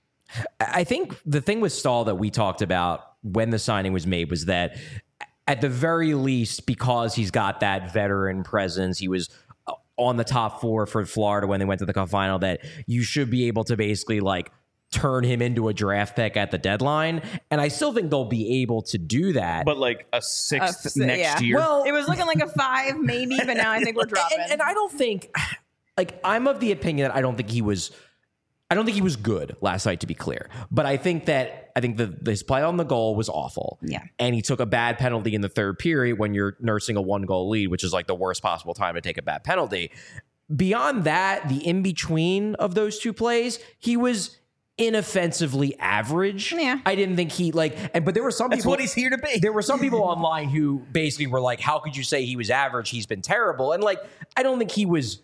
I think the thing with Staal that we talked about when the signing was made was that at the very least, because he's got that veteran presence, he was on the top four for Florida when they went to the cup final, that you should be able to basically like turn him into a draft pick at the deadline. And I still think they'll be able to do that. But like a sixth Uh, s- next yeah. year. Well, It was looking like a five, maybe, but now I think we're dropping. And, and I don't think, like, I'm of the opinion that I don't think he was, I don't think he was good last night, to be clear. But I think that, I think the his play on the goal was awful. Yeah. And he took a bad penalty in the third period when you're nursing a one goal lead, which is like the worst possible time to take a bad penalty. Beyond that, the in between of those two plays, he was inoffensively average. Yeah. I didn't think he like, and but there were some That's people. what he's here to be. There were some people online who basically were like, "How could you say he was average? He's been terrible." And like, I don't think he was.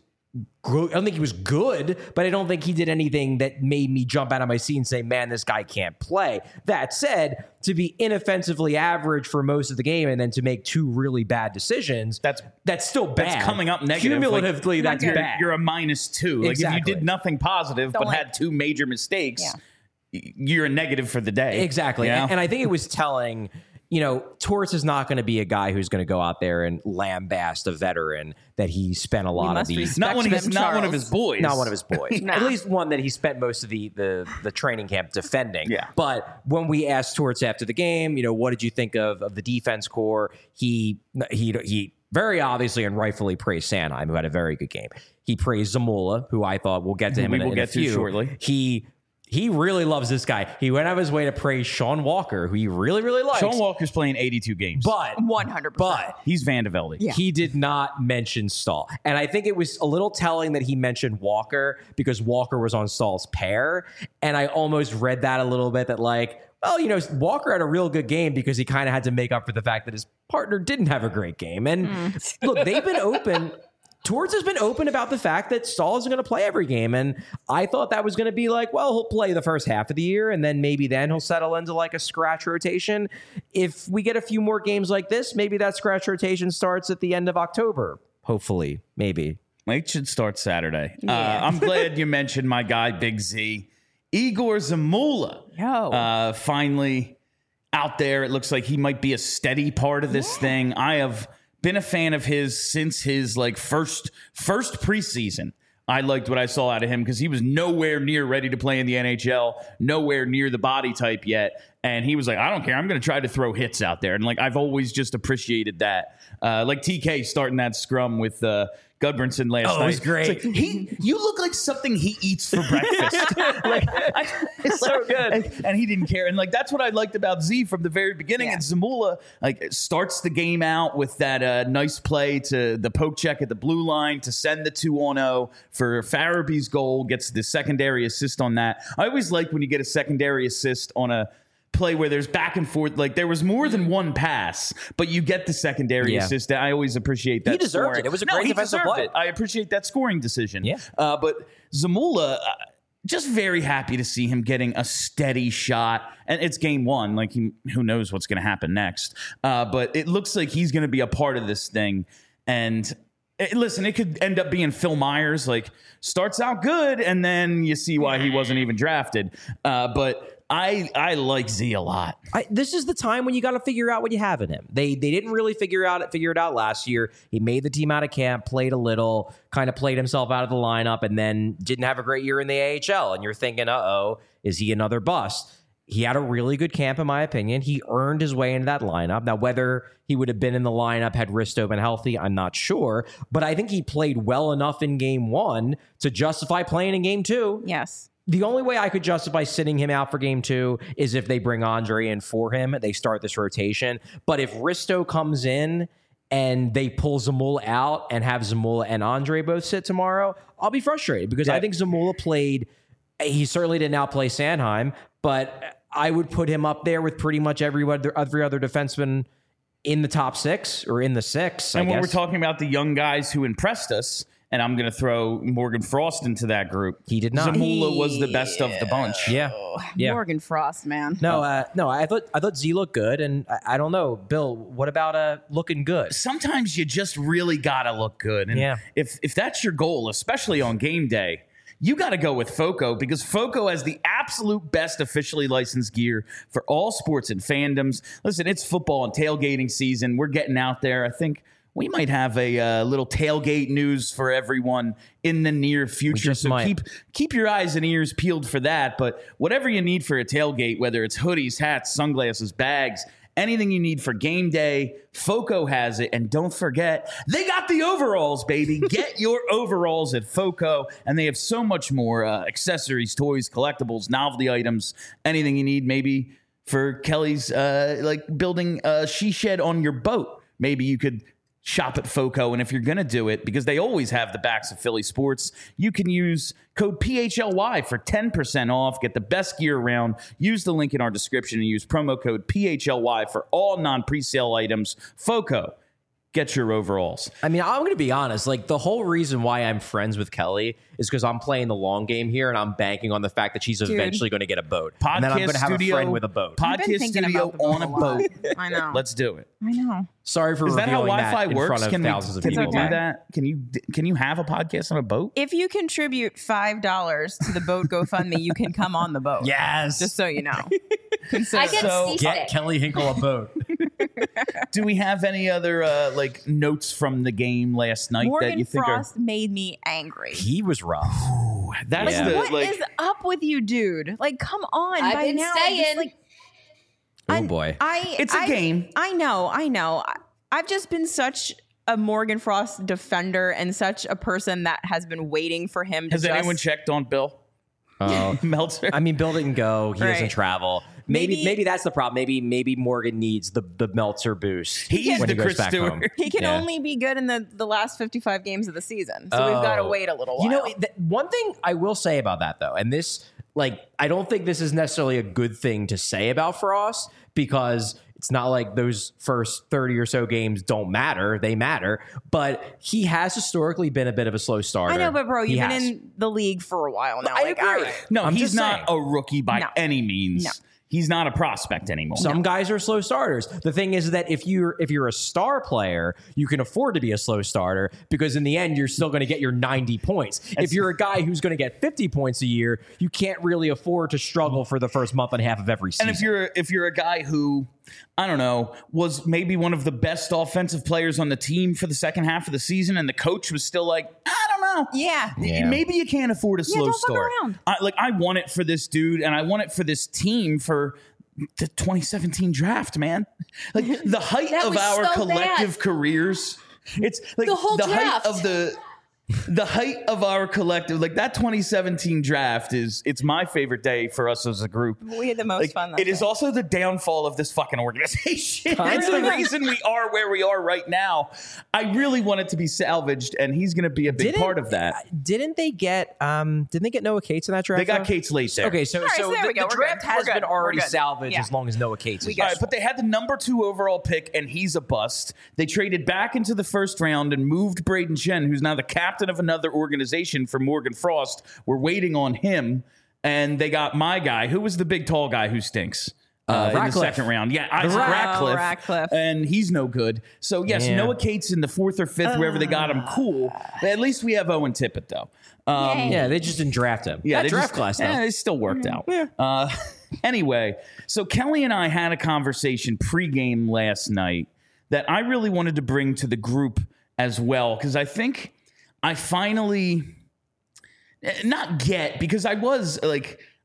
I don't think he was good, but I don't think he did anything that made me jump out of my seat and say, man, this guy can't play. That said, to be inoffensively average for most of the game and then to make two really bad decisions, That's- that's still bad. That's coming up negative. Cumulatively, Like, that's you're, bad. You're a minus two. Like, Exactly. if you did nothing positive Don't but like- had two major mistakes, Yeah. y- you're a negative for the day. Exactly. You know? And, and I think it was telling, you know, Torts is not going to be a guy who's going to go out there and lambast a veteran that he spent a lot of must these. respect not one of him, his, not one of Charles. his boys. Not one of his boys. Nah. At least one that he spent most of the, the the training camp defending. Yeah. But when we asked Torts after the game, you know, what did you think of, of the defense core? He he he very obviously and rightfully praised Sanheim, who had a very good game. He praised Zamula, who I thought we'll get to him We in, a- will in a get to few. shortly. He he really loves this guy. He went out of his way to praise Sean Walker, who he really really likes. Sean Walker's playing eighty-two games. but one hundred percent. but he's Van de Velde. Yeah. he did not mention Staal. And I think it was a little telling that he mentioned Walker because Walker was on Staal's pair. And I almost read that a little bit that like, well, you know, Walker had a real good game because he kind of had to make up for the fact that his partner didn't have a great game. And look, they've been open. Torts has been open about the fact that Staal isn't going to play every game. And I thought that was going to be like, well, he'll play the first half of the year and then maybe then he'll settle into like a scratch rotation. If we get a few more games like this, maybe that scratch rotation starts at the end of October. Hopefully, maybe. It should start Saturday. Yeah. Uh, I'm glad you mentioned my guy, Big Z. Igor Zamula. Yo. Uh, finally out there. It looks like he might be a steady part of this thing. I have been a fan of his since his like first first preseason. I liked what I saw out of him because he was nowhere near ready to play in the N H L, nowhere near the body type yet. And he was like, I don't care. I'm going to try to throw hits out there. And like, I've always just appreciated that. Uh, like T K starting that scrum with uh, Gudbranson last Oh, night. it was great. It's like, he, you look like something he eats for breakfast. like, I, it's so good. And, and he didn't care. And like, that's what I liked about Z from the very beginning. Yeah. And Zamula like starts the game out with that uh, nice play to the poke check at the blue line to send the two on oh for Farabee's goal, gets the secondary assist on that. I always like when you get a secondary assist on a play where there's back and forth. Like there was more than one pass, but you get the secondary Yeah. assist. I always appreciate that. He deserved scoring. it. It was a No, great he defensive deserved play. it. I appreciate that scoring decision. Yeah. Uh, but Zamula, uh, just very happy to see him getting a steady shot. And it's game one. Like, he, who knows what's going to happen next. Uh, but it looks like he's going to be a part of this thing. And it, listen, it could end up being Phil Myers. Like, starts out good, and then you see why he wasn't even drafted. Uh, but I I like Z a lot. I, this is the time when you got to figure out what you have in him. They they didn't really figure out it figure it out last year. He made the team out of camp, played a little, kind of played himself out of the lineup, and then didn't have a great year in the A H L. And you're thinking, uh oh, is he another bust? He had a really good camp, in my opinion. He earned his way into that lineup. Now, whether he would have been in the lineup had Risto been healthy, I'm not sure. But I think he played well enough in game one to justify playing in game two. Yes. The only way I could justify sitting him out for game two is if they bring Andre in for him. They start this rotation. But if Risto comes in and they pull Zamula out and have Zamula and Andre both sit tomorrow, I'll be frustrated because yeah. I think Zamula played. He certainly didn't outplay Sanheim, but I would put him up there with pretty much every other, every other defenseman in the top six or in the six. And I when guess. we're talking about the young guys who impressed us, and I'm going to throw Morgan Frost into that group. He did not. Zamula was the best of the bunch. Yeah, yeah. Morgan Frost, man. No, uh, no. I thought I thought Z looked good, and I, I don't know, Bill. What about uh looking good? Sometimes you just really got to look good, and yeah. if if that's your goal, especially on game day, you got to go with Foco because Foco has the absolute best officially licensed gear for all sports and fandoms. Listen, it's football and tailgating season. We're getting out there. I think we might have a uh, little tailgate news for everyone in the near future. So might. keep keep your eyes and ears peeled for that. But whatever you need for a tailgate, whether it's hoodies, hats, sunglasses, bags, anything you need for game day, Foco has it. And don't forget, they got the overalls, baby. Get your overalls at Foco. And they have so much more uh, accessories, toys, collectibles, novelty items, anything you need maybe for Kelly's uh, like building a she shed on your boat. Maybe you could shop at Foco, and if you're going to do it, because they always have the backs of Philly sports, you can use code P H L Y for ten percent off. Get the best gear around. Use the link in our description and use promo code P H L Y for all non-presale items. Foco, get your overalls. I mean, I'm going to be honest. Like, the whole reason why I'm friends with Kelly is because I'm playing the long game here, and I'm banking on the fact that she's Dude. eventually going to get a boat. Podcast and then I'm going to have studio, a friend with a boat. Podcast studio on a boat. I know. Let's do it. I know. Sorry for Is that how revealing Wi-Fi that in works? front of Can we, thousands of can people. we do Okay. that? Can you can you have a podcast on a boat? If you contribute five dollars to the boat GoFundMe, you can come on the boat. Yes. Just so you know. Consider I get So- seasick. Get Kelly Hinkle a boat. Do we have any other uh, like notes from the game last night Morgan that you think Frost made me angry. He was rough. are? That's Yeah. the What like. is up with you, dude? Like, come on. I've by been now, saying. just, like, Oh, I- boy. I, It's a I- game. I know, I know. I, I've just been such a Morgan Frost defender and such a person that has been waiting for him to Has just, anyone checked on Bill Oh. Meltzer? I mean, Bill didn't go. He doesn't Right. travel. Maybe, Maybe- maybe that's the problem. Maybe maybe Morgan needs the the Meltzer boost. He's when the he goes Chris back Stewart. home. He can Yeah. only be good in the, the last fifty-five games of the season. So we've got to Oh. wait a little while. You know, th- one thing I will say about that, though, and this, like, I don't think this is necessarily a good thing to say about Frost because it's not like those first thirty or so games don't matter. They matter. But he has historically been a bit of a slow starter. I know, but bro, He you've been has. in the league for a while now. I like, agree. all right. No, I'm he's just not saying. a rookie by No. any means. No. He's not a prospect anymore. Some guys are slow starters. The thing is that if you're if you're a star player, you can afford to be a slow starter because in the end you're still going to get your ninety points. If you're a guy who's going to get fifty points a year, you can't really afford to struggle for the first month and a half of every season. And if you're if you're a guy who, I don't know, was maybe one of the best offensive players on the team for the second half of the season, and the coach was still like, I don't know, Yeah. Yeah. maybe you can't afford a slow don't fuck start. around. I, like I want it for this dude, and I want it for this team for the twenty seventeen draft, man. Like the height That of was our so collective bad. careers. It's like The whole height draft. of the. The height of our collective, like that twenty seventeen draft, is it's my favorite day for us as a group. We had the most Like, fun. That it is day. also the downfall of this fucking organization. Kind It's the of. reason we are where we are right now. I really want it to be salvaged, and he's going to be a big Didn't- part of that. Didn't they get um didn't they get Noah Cates in that draft? They got though? Kate's late there. Okay, so All right, so so there the, we go. the We're draft good. has We're been good. We're already good. salvaged Yeah. as long as Noah Cates is All right, but they had the number two overall pick, and he's a bust. They traded back into the first round and moved Braden Chen, who's now the captain of another organization, for Morgan Frost. We're waiting on him, and they got my guy, who was the big tall guy who stinks. Uh, in the Ratcliffe. second round. Yeah, Isaac Rat- Ratcliffe. Oh, Ratcliffe. And he's no good. So, yes, Yeah. Noah Cates in the fourth or fifth, wherever they got him, cool. At least we have Owen Tippett, though. Um, Yay. Yeah, they just didn't draft him. yeah, that they draft just- class though. eh, it still worked out. Uh, anyway, so Kelly and I had a conversation pregame last night that I really wanted to bring to the group as well, because I think I finally eh, not get because I was like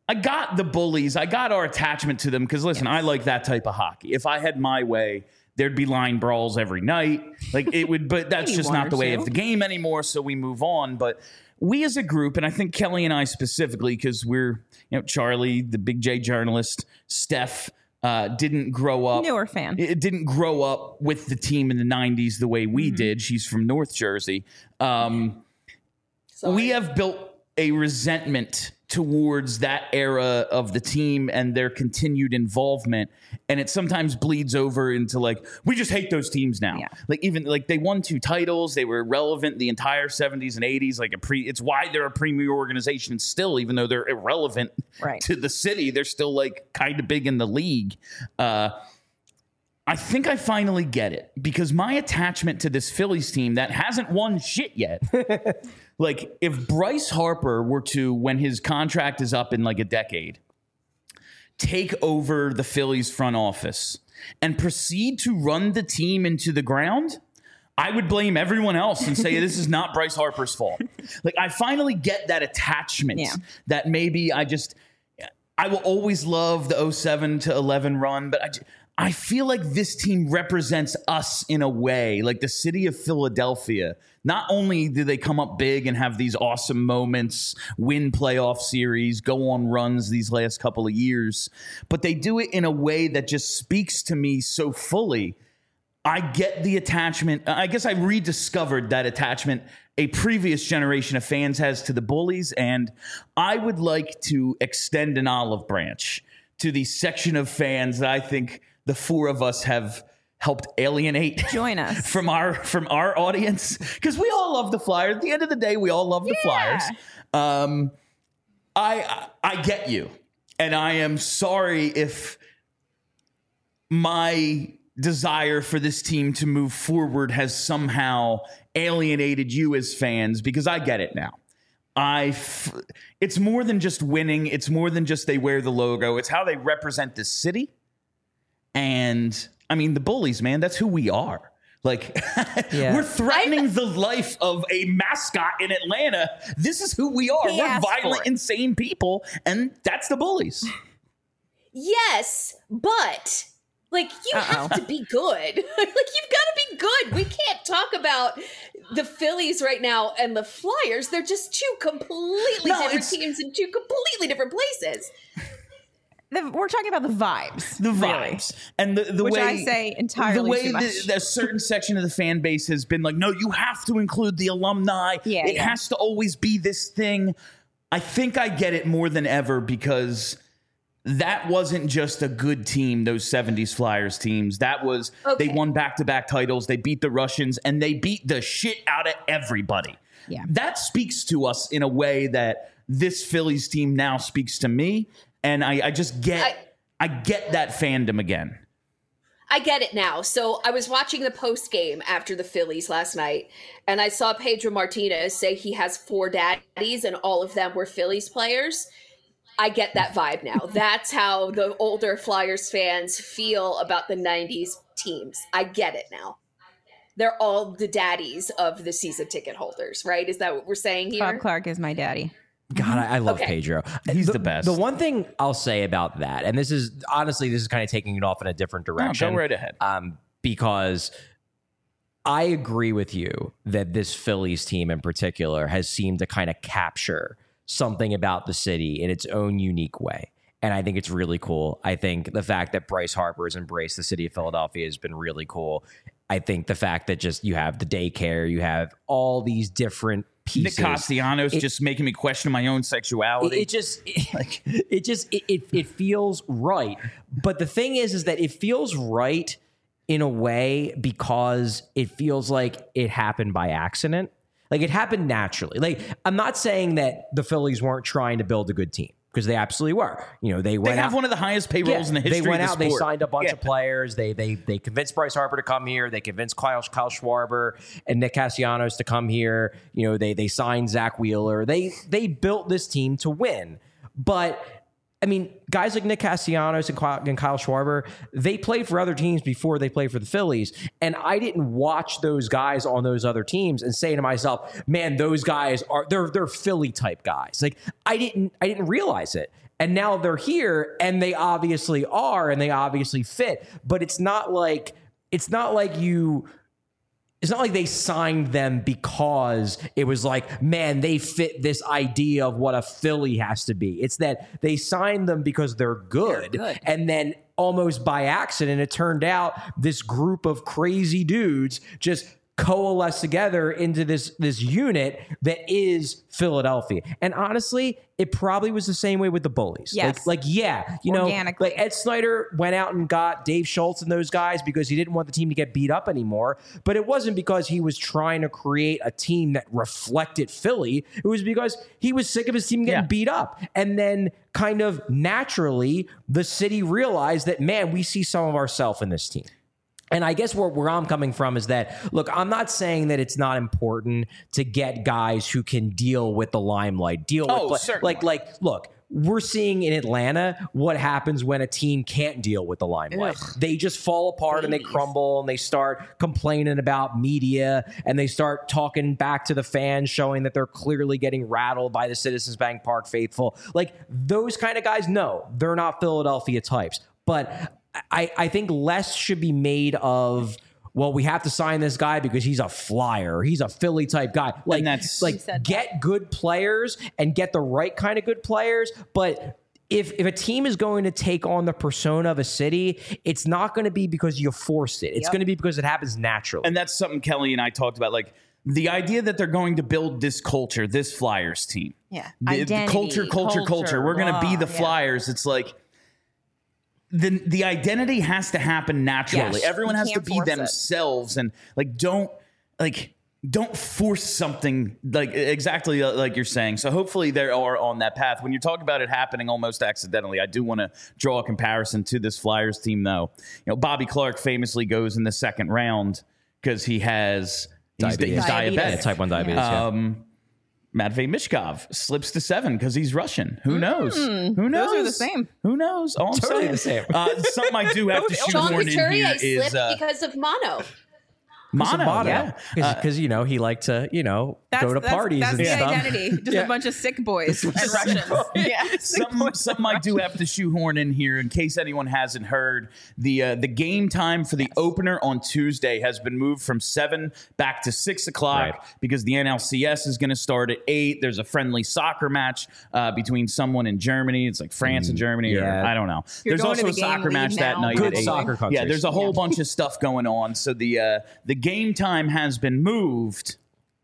I got the bullies. I got our attachment to them because, listen, yes. I like that type of hockey. If I had my way, there'd be line brawls every night. Like it would, but that's just not the way of the game anymore. So we move on. But we as a group, and I think Kelly and I specifically, because we're, you know, Charlie, the Big J journalist, Steph, uh, didn't grow up. Newer fan. It didn't grow up with the team in the nineties the way we mm-hmm. did. She's from North Jersey. Um, we have built a resentment towards that era of the team and their continued involvement. And it sometimes bleeds over into like, we just hate those teams now. Yeah. Like even like they won two titles. They were relevant the entire seventies and eighties. Like a pre it's why they're a premier organization still, even though they're irrelevant right. to the city. They're still like kind of big in the league. Uh, I think I finally get it because my attachment to this Phillies team that hasn't won shit yet. Like if Bryce Harper were to, when his contract is up in like a decade, take over the Phillies front office and proceed to run the team into the ground, I would blame everyone else and say this is not Bryce Harper's fault. Like I finally get that attachment yeah. that maybe I just, I will always love the oh seven to eleven run, but I just, I feel like this team represents us in a way, like the city of Philadelphia. Not only do they come up big and have these awesome moments, win playoff series, go on runs these last couple of years, but they do it in a way that just speaks to me so fully. I get the attachment. I guess I rediscovered that attachment a previous generation of fans has to the Bullies, and I would like to extend an olive branch to the section of fans that I think the four of us have helped alienate. Join us from our from our audience because we all love the Flyers. At the end of the day, we all love the yeah. Flyers. Um, I I get you, and I am sorry if my desire for this team to move forward has somehow alienated you as fans because I get it now. I f- it's more than just winning. It's more than just they wear the logo. It's how they represent the city. And I mean, the Bullies, man, that's who we are. Like yeah. we're threatening I'm, the life of a mascot in Atlanta. This is who we are. We're violent, insane people. And that's the Bullies. Yes, but like you Uh-oh. have to be good. Like you've got to be good. We can't talk about the Phillies right now and the Flyers. They're just two completely no, different teams in two completely different places. The, we're talking about the vibes. The vibes. Really. And the, the Which way... I say entirely The way too much. The, a certain section of the fan base has been like, no, you have to include the alumni. Yeah, it yeah. has to always be this thing. I think I get it more than ever because that wasn't just a good team, those seventies Flyers teams. That was... Okay. They won back-to-back titles. They beat the Russians, and they beat the shit out of everybody. Yeah. That speaks to us in a way that this Phillies team now speaks to me. And I, I just get, I, I get that fandom again. I get it now. So I was watching the post game after the Phillies last night, and I saw Pedro Martinez say he has four daddies, and all of them were Phillies players. I get that vibe now. That's how the older Flyers fans feel about the nineties teams. I get it now. They're all the daddies of the season ticket holders, right? Is that what we're saying here? Bob Clark is my daddy. God, I, I love okay. Pedro. He's the, the best. The one thing I'll say about that, and this is honestly, this is kind of taking it off in a different direction. No, go right ahead. Um, because I agree with you that this Phillies team in particular has seemed to kind of capture something about the city in its own unique way. And I think it's really cool. I think the fact that Bryce Harper has embraced the city of Philadelphia has been really cool. I think the fact that just you have the daycare, you have all these different pieces. Nick Castellanos just making me question my own sexuality. It, it just, it, like, it just, it, it, it feels right. But the thing is, is that it feels right in a way because it feels like it happened by accident. Like it happened naturally. Like I'm not saying that the Phillies weren't trying to build a good team, because they absolutely were. You know, they went They have out, one of the highest payrolls yeah, in the history They went of the out, sport. They signed a bunch yeah. of players. They they they convinced Bryce Harper to come here. They convinced Kyle, Kyle Schwarber and Nick Castellanos to come here. You know, they they signed Zach Wheeler. They they built this team to win. But I mean, guys like Nick Castellanos and Kyle, and Kyle Schwarber, they played for other teams before they played for the Phillies. And I didn't watch those guys on those other teams and say to myself, man, those guys are they're they're Philly type guys. Like I didn't I didn't realize it. And now they're here, and they obviously are, and they obviously fit. But it's not like it's not like you. It's not like they signed them because it was like, man, they fit this idea of what a Philly has to be. It's that they signed them because they're good. They're good. And then almost by accident, it turned out this group of crazy dudes just coalesce together into this this unit that is Philadelphia. And honestly, it probably was the same way with the Bullies. Yes. Like, like yeah, you know, Organically. like Ed Snyder went out and got Dave Schultz and those guys because he didn't want the team to get beat up anymore. But it wasn't because he was trying to create a team that reflected Philly. It was because he was sick of his team getting Yeah. beat up. And then kind of naturally, the city realized that, man, we see some of ourselves in this team. And I guess where, where I'm coming from is that, look, I'm not saying that it's not important to get guys who can deal with the limelight, deal Oh, with certainly. like, like, look, we're seeing in Atlanta what happens when a team can't deal with the limelight. Ugh. They just fall apart and they crumble and they start complaining about media and they start talking back to the fans, showing that they're clearly getting rattled by the Citizens Bank Park faithful. Like those kind of guys, no, they're not Philadelphia types. But I, I think less should be made of, well, we have to sign this guy because he's a flyer. He's a Philly type guy. Like, that's- like You said get good players and get the right kind of good players. But if if a team is going to take on the persona of a city, it's not going to be because you forced it. It's Yep. going to be because it happens naturally. And that's something Kelly and I talked about. Like the idea that they're going to build this culture, this Flyers team. Yeah. The, the Identity, culture, culture, culture. culture, We're going to be blah, the yeah. Flyers. It's like the the identity has to happen naturally. Yes. Everyone You has to can't be force it. themselves, and like don't like don't force something like exactly like you're saying. So hopefully they are on that path. When you're talking about it happening almost accidentally, I do want to draw a comparison to this Flyers team, though. You know, Bobby Clark famously goes in the second round because he has he's, Diabetes. he's Diabetes. diabetic. Yeah, type one diabetes. Yeah. Um, Matvey Mishkov slips to seven because he's Russian. Who knows? Who knows? those are the same. Who knows? All I'm Totally saying. the same. Uh, something I do have to Sean shoehorn in Couturier here is slipped uh, because of mono. mono. Yeah. Because, you know, he liked to, you know, That's, go to that's, parties that's and the stuff. identity. Just Yeah. a bunch of sick boys and Russians. Yeah. Something, something I do have to shoehorn in here in case anyone hasn't heard. The uh, the game time for the opener on Tuesday has been moved from seven back to six o'clock Right. because the N L C S is going to start at eight. There's a friendly soccer match uh, between someone in Germany. It's like France and Germany, or yeah. I don't know. You're there's going also to a the game soccer league match that now. night. Good at eight. soccer countries. Yeah, there's a whole Yeah. bunch of stuff going on. So the uh, the game time has been moved.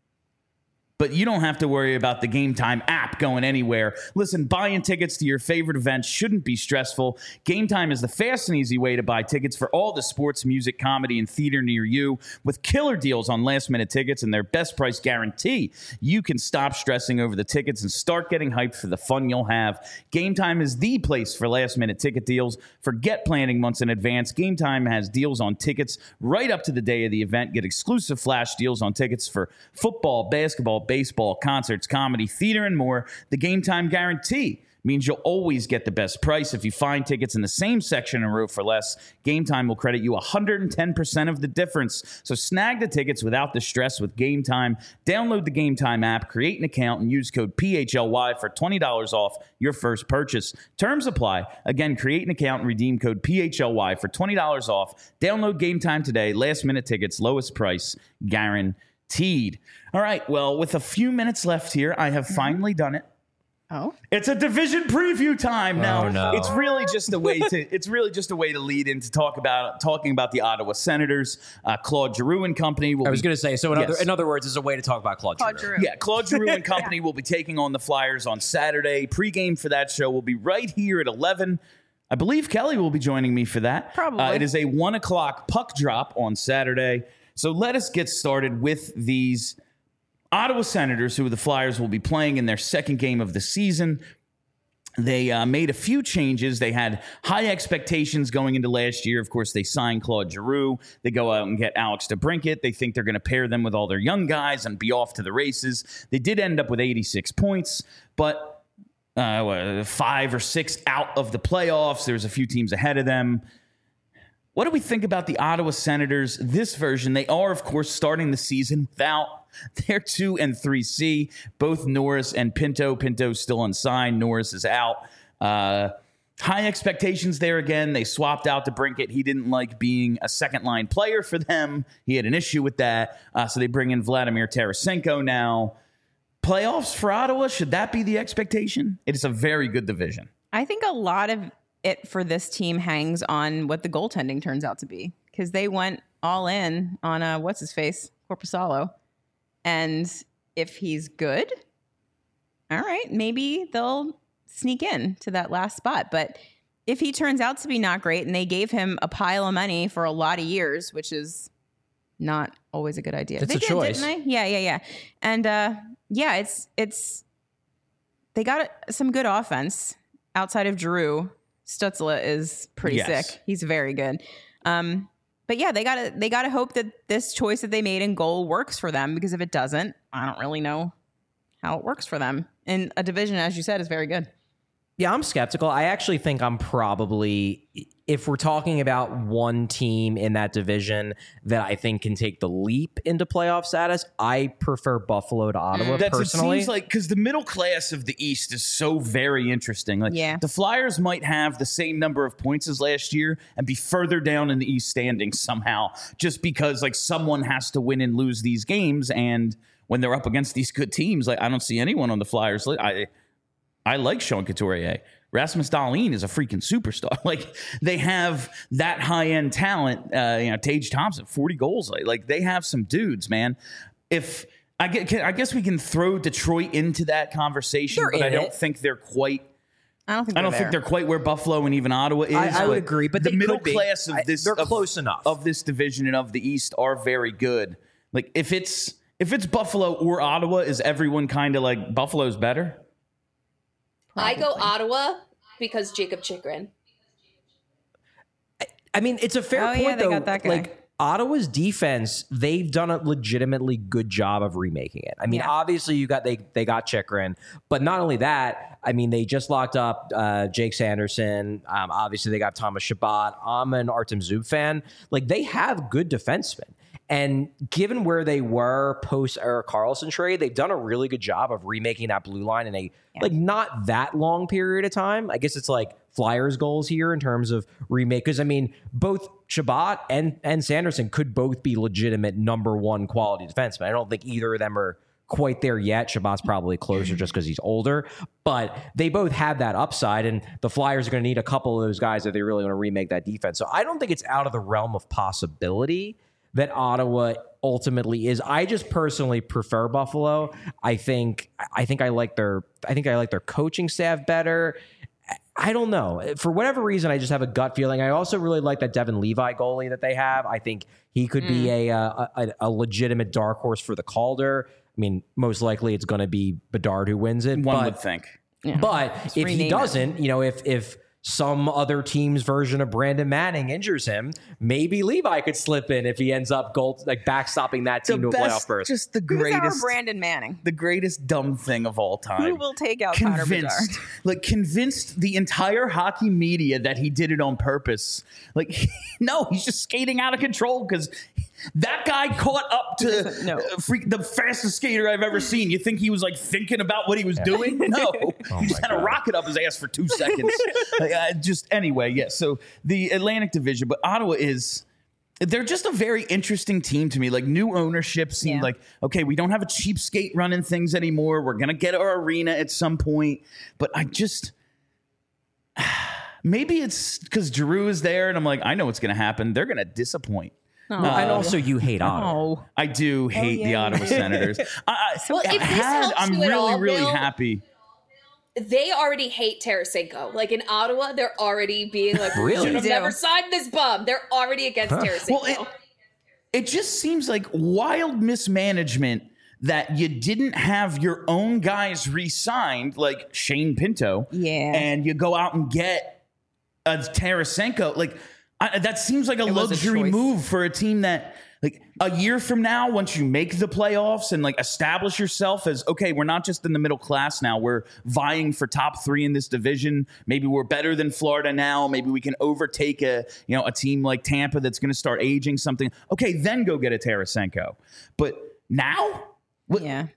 But you don't have to worry about the Game Time app going anywhere. Listen, buying tickets to your favorite events shouldn't be stressful. Game Time is the fast and easy way to buy tickets for all the sports, music, comedy, and theater near you. With killer deals on last-minute tickets and their best price guarantee, you can stop stressing over the tickets and start getting hyped for the fun you'll have. Game Time is the place for last-minute ticket deals. Forget planning months in advance. Game Time has deals on tickets right up to the day of the event. Get exclusive flash deals on tickets for football, basketball, baseball, concerts, comedy, theater, and more. The Game Time guarantee means you'll always get the best price. If you find tickets in the same section and row for less, Game Time will credit you one hundred ten percent of the difference. So snag the tickets without the stress with Game Time. Download the Game Time app, create an account, and use code P H L Y for twenty dollars off your first purchase. Terms apply. Again, create an account and redeem code P H L Y for twenty dollars off. Download Game Time today. Last minute tickets, lowest price, guaranteed. All right, well, with a few minutes left here, I have finally done it. Oh. It's a division preview time now. Oh, no. It's really just a way to it's really just a way to lead into talk about talking about the Ottawa Senators. Uh, Claude Giroux and company will I was be, going to say, so in, Yes. other, in other words, it's a way to talk about Claude, Claude Giroux. Giroux. yeah, Claude Giroux and company will be taking on the Flyers on Saturday. Pre-game for that show will be right here at eleven. I believe Kelly will be joining me for that. Probably. Uh, it is a one o'clock puck drop on Saturday. So let us get started with these Ottawa Senators, who the Flyers will be playing in their second game of the season. They uh, made a few changes. They had high expectations going into last year. Of course, they signed Claude Giroux. They go out and get Alex DeBrincat. They think they're going to pair them with all their young guys and be off to the races. They did end up with eighty-six points, but uh, what, five or six out of the playoffs. There's a few teams ahead of them. What do we think about the Ottawa Senators this version? They are, of course, starting the season without their two and three C, both Norris and Pinto. Pinto still unsigned. Norris is out. Uh, high expectations there again. They swapped out DeBrincat. He didn't like being a second line player for them. He had an issue with that. Uh, so they bring in Vladimir Tarasenko now. Playoffs for Ottawa, should that be the expectation? It is a very good division. I think a lot of it for this team hangs on what the goaltending turns out to be, because they went all in on uh, what's his face, Korpisalo, and if he's good, all right, maybe they'll sneak in to that last spot. But if he turns out to be not great, and they gave him a pile of money for a lot of years, which is not always a good idea. It's they a did, choice. didn't they? Yeah, yeah, yeah. And uh, yeah, it's it's they got some good offense outside of Drew. Stützle is pretty Yes. sick. He's very good. Um, but yeah, they gotta they gotta hope that this choice that they made in goal works for them, because if it doesn't, I don't really know how it works for them. And a division, as you said, is very good. Yeah, I'm skeptical. I actually think I'm probably, if we're talking about one team in that division that I think can take the leap into playoff status, I prefer Buffalo to Ottawa That's, personally. It seems like, because the middle class of the East is so very interesting. Like, Yeah. the Flyers might have the same number of points as last year and be further down in the East standings somehow, just because like someone has to win and lose these games. And when they're up against these good teams, like I don't see anyone on the Flyers. I I like Sean Couturier. Rasmus Dahlin is a freaking superstar. Like, they have that high-end talent. Uh, you know, Tage Thompson, forty goals. Like, like they have some dudes, man. If I get, can, I guess we can throw Detroit into that conversation, They're but in I don't it. think they're quite. I don't think I don't they're think they're quite where Buffalo and even Ottawa is. I, I would agree, but the they middle could be. class of I- this, they're of- close enough. of this division and of the East are very good. Like, if it's if it's Buffalo or Ottawa, is everyone kind of like Buffalo's better? I go Probably. Ottawa because Jacob Chikrin. I mean, it's a fair Oh, point, yeah, they though. got that guy. Like, Ottawa's defense, they've done a legitimately good job of remaking it. I mean, Yeah. obviously, you got they they got Chikrin, but not only that, I mean, they just locked up uh, Jake Sanderson. Um, obviously, they got Thomas Chabot. I'm an Artem Zub fan. Like, they have good defensemen. And given where they were post Erik Karlsson trade, they've done a really good job of remaking that blue line in a Yeah. like not that long period of time. I guess it's like Flyers goals here in terms of remake. Because I mean, both Chabot and and Sanderson could both be legitimate number one quality defensemen. I don't think either of them are quite there yet. Chabot's probably closer just because he's older, but they both have that upside, and the Flyers are going to need a couple of those guys if they really want to remake that defense. So I don't think it's out of the realm of possibility that Ottawa ultimately is. I just personally prefer Buffalo. I think I think I like their I think I like their coaching staff better. I don't know. For whatever reason, I just have a gut feeling. I also really like that Devin Levi goalie that they have. I think he could be a, uh, a a legitimate dark horse for the Calder. I mean, most likely it's going to be Bedard who wins it. One but, would think. Yeah. But Just if rename he it. doesn't, you know, if if some other team's version of Brandon Manning injures him, maybe Levi could slip in if he ends up goal like backstopping that team to a playoff berth. just the Who's our greatest, Brandon Manning? the greatest dumb thing of all time. Who will take out Connor Bedard? convinced, like convinced the entire hockey media that he did it on purpose. Like, no, he's just skating out of control because that guy caught up to doesn't know. uh, freak, the fastest skater I've ever seen. You think he was like thinking about what he was doing? No, he just had a rocket up his ass for two seconds. Like, uh, just anyway, yeah. So the Atlantic Division, but Ottawa is. They're just a very interesting team to me. Like, new ownership seemed Yeah. like, okay, we don't have a cheapskate running things anymore. We're going to get our arena at some point. But I just, maybe it's because Giroux is there and I'm like, I know what's going to happen. They're going to disappoint. Well, and also you hate Ottawa. Oh, I do hate the yeah. Ottawa Senators. I, I, Well, if this had, helps I'm you at really, all, really Bill, happy. They already hate Tarasenko. Like in Ottawa, they're already being like, we Really? should have They do. never signed this bum. They're already against Tarasenko. Well, it, it just seems like wild mismanagement that you didn't have your own guys re-signed, like Shane Pinto, Yeah. and you go out and get a Tarasenko. Like, I, that seems like a It was a luxury choice. move for a team that, like, a year from now, once you make the playoffs and like establish yourself as, okay, we're not just in the middle class now, we're vying for top three in this division. Maybe we're better than Florida now. Maybe we can overtake a, you know, a team like Tampa that's going to start aging something. Okay, then go get a Tarasenko. But now, what, yeah.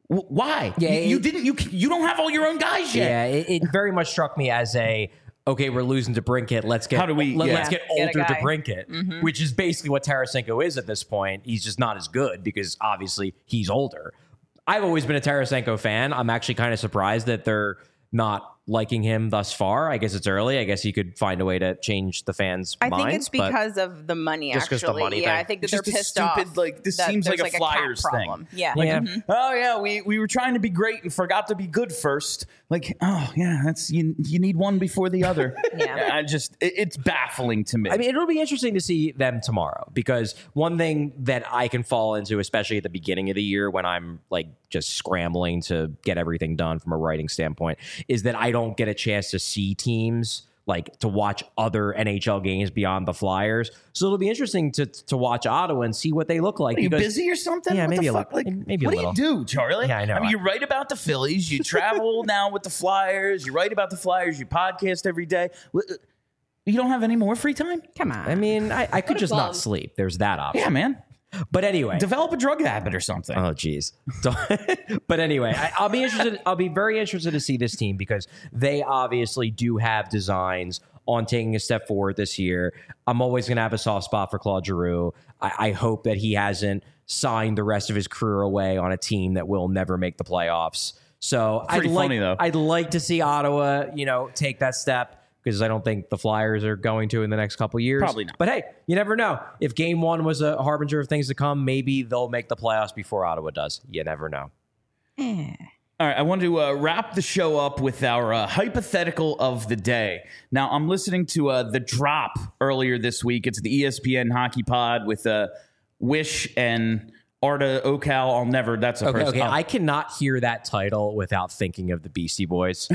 W- Why? Yeah, you, you it- didn't. You you don't have all your own guys yet. Yeah, it, it very much struck me as a okay, we're losing to Brinkett. Let's get How do we- let, yeah. us get Get a older to guy. Brinkett, which is basically what Tarasenko is at this point. He's just not as good because obviously he's older. I've always been a Tarasenko fan. I'm actually kind of surprised that they're not liking him thus far. I guess it's early. I guess he could find a way to change the fans' I minds. think it's but- because of the money. Just 'cause Actually, the money yeah, thing. I think that Just they're a pissed stupid, off. like, this that seems like there's a a cap Flyers thing. problem. Yeah, Like, Yeah. Mhm. oh yeah, we we were trying to be great and forgot to be good first. Like, oh yeah, that's you. You need one before the other. Yeah. I just it, it's baffling to me. I mean, it'll be interesting to see them tomorrow because one thing that I can fall into, especially at the beginning of the year when I'm like just scrambling to get everything done from a writing standpoint, is that I don't get a chance to see teams, like to watch other N H L games beyond the Flyers. So it'll be interesting to to watch Ottawa and see what they look like. Are you because- busy or something? Yeah, What maybe the a fuck? little- Like, maybe a what little. do you do, Charlie? Yeah, I know. I mean, you write about the Phillies. You travel now with the Flyers. You write about the Flyers. You podcast every day. Wh- You don't have any more free time? Come on. I mean, I, I could just bum. not sleep. There's that option. Yeah, man. But anyway, Develop a drug habit or something. oh, geez. So- but anyway, I, I'll be interested. I'll be very interested to see this team because they obviously do have designs on taking a step forward this year. I'm always going to have a soft spot for Claude Giroux. I, I hope that he hasn't signed the rest of his career away on a team that will never make the playoffs. So I'd Pretty like, funny, though. I'd like to see Ottawa, you know, take that step. Because I don't think the Flyers are going to in the next couple years. Probably not. But hey, you never know. If game one was a harbinger of things to come, maybe they'll make the playoffs before Ottawa does. You never know. Eh. All right, I want to uh, wrap the show up with our uh, hypothetical of the day. Now, I'm listening to uh, The Drop earlier this week. It's the E S P N Hockey Pod with uh, Wish and Arda Ocal. I'll never. That's a Okay, person. okay. oh. I cannot hear that title without thinking of the Beastie Boys.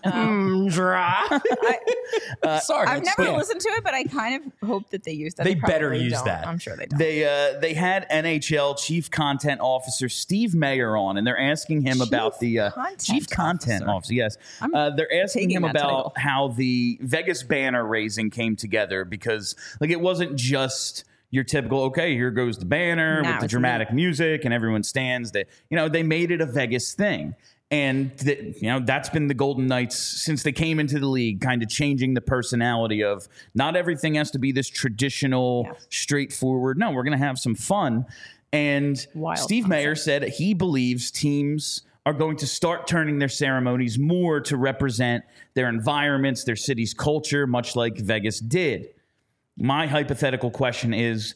Mm, drop. Sorry, I've it's- never yeah. listened to it, but I kind of hope that they use that. They better probably use don't. that. I'm sure they don't. They uh, they had N H L Chief Content Officer Steve Mayer on, and they're asking him Chief about the uh, Content Chief Content Officer. Officer. Yes, I'm uh, they're asking taking him that about title. how the Vegas banner raising came together because like it wasn't just your typical okay, here goes the banner No, with the it's dramatic music and everyone stands. That you know they made it a Vegas thing. And the, you know that's been the Golden Knights since they came into the league, kind of changing the personality of not everything has to be this traditional, Yes. straightforward. No, we're going to have some fun. And Wild Steve Mayer said he believes teams are going to start turning their ceremonies more to represent their environments, their city's culture, much like Vegas did. My hypothetical question is,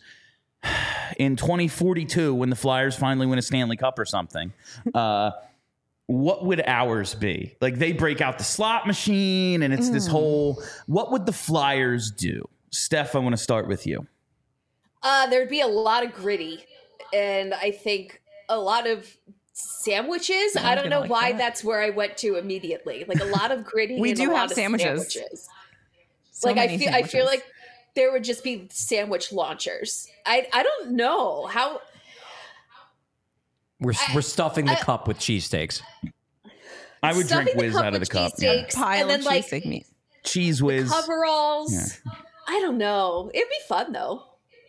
in twenty forty-two, when the Flyers finally win a Stanley Cup or something, uh, what would ours be? Like they break out the slot machine and it's this whole, what would the Flyers do? Steph, I want to start with you. Uh, there'd be a lot of gritty, and I think a lot of sandwiches. I don't gonna know like why that. that's where I went to immediately. Like a lot of gritty. We and do a lot have of sandwiches. sandwiches. So like I many feel, I feel sandwiches. like there would just be sandwich launchers. I, I don't know how. We're, we're stuffing the I- cup with cheesesteaks. I would Stuffing drink the whiz cup out of the with cup. Yeah. cheesesteaks, pile and then of like cheesesteak meat. Cheese whiz. coveralls. I don't know. It'd be fun though.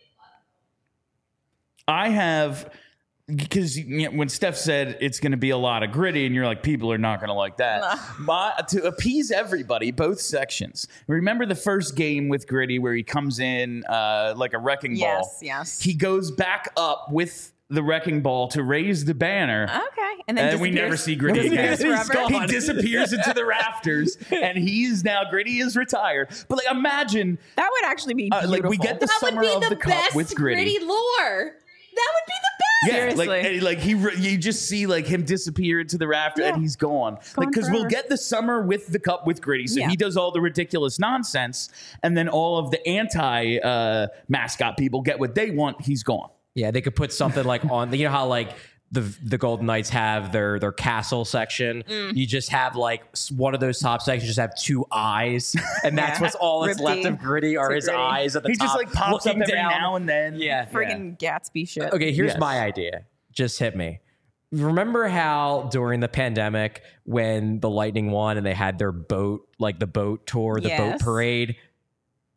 I have, because you know, when Steph said it's going to be a lot of gritty, and you're like, people are not going to like that. My, to appease everybody, both sections. Remember the first game with Gritty where he comes in uh, like a wrecking ball? Yes, yes. He goes back up with the wrecking ball to raise the banner. Okay, and then And we never disappears. see Gritty again. Disappears forever. He disappears into the rafters, and he's now Gritty is retired. But like, imagine That would actually be uh, beautiful. like we get the That would summer be of the, the, cup best with Gritty. gritty lore. That would be the best. Yeah, like Seriously. and, like he, re- you just see like him disappear into the rafter Yeah. and he's gone. Like Gone because we'll forever. get the summer with the cup with Gritty, so Yeah. he does all the ridiculous nonsense, and then all of the anti uh, mascot people get what they want. He's gone. Yeah, they could put something like on, you know how like the the Golden Knights have their their castle section. Mm. You just have like s- one of those top sections just have two eyes, and that's Yeah. what's all that's left Riptide. of Gritty are To his Gritty. eyes at the He top. just like pops up looking every down. now and then. Yeah. friggin' Gatsby shit. Okay, here's Yes. my idea. Just hit me. Remember how during the pandemic when the Lightning won and they had their boat, like the boat tour, the boat Yes. parade,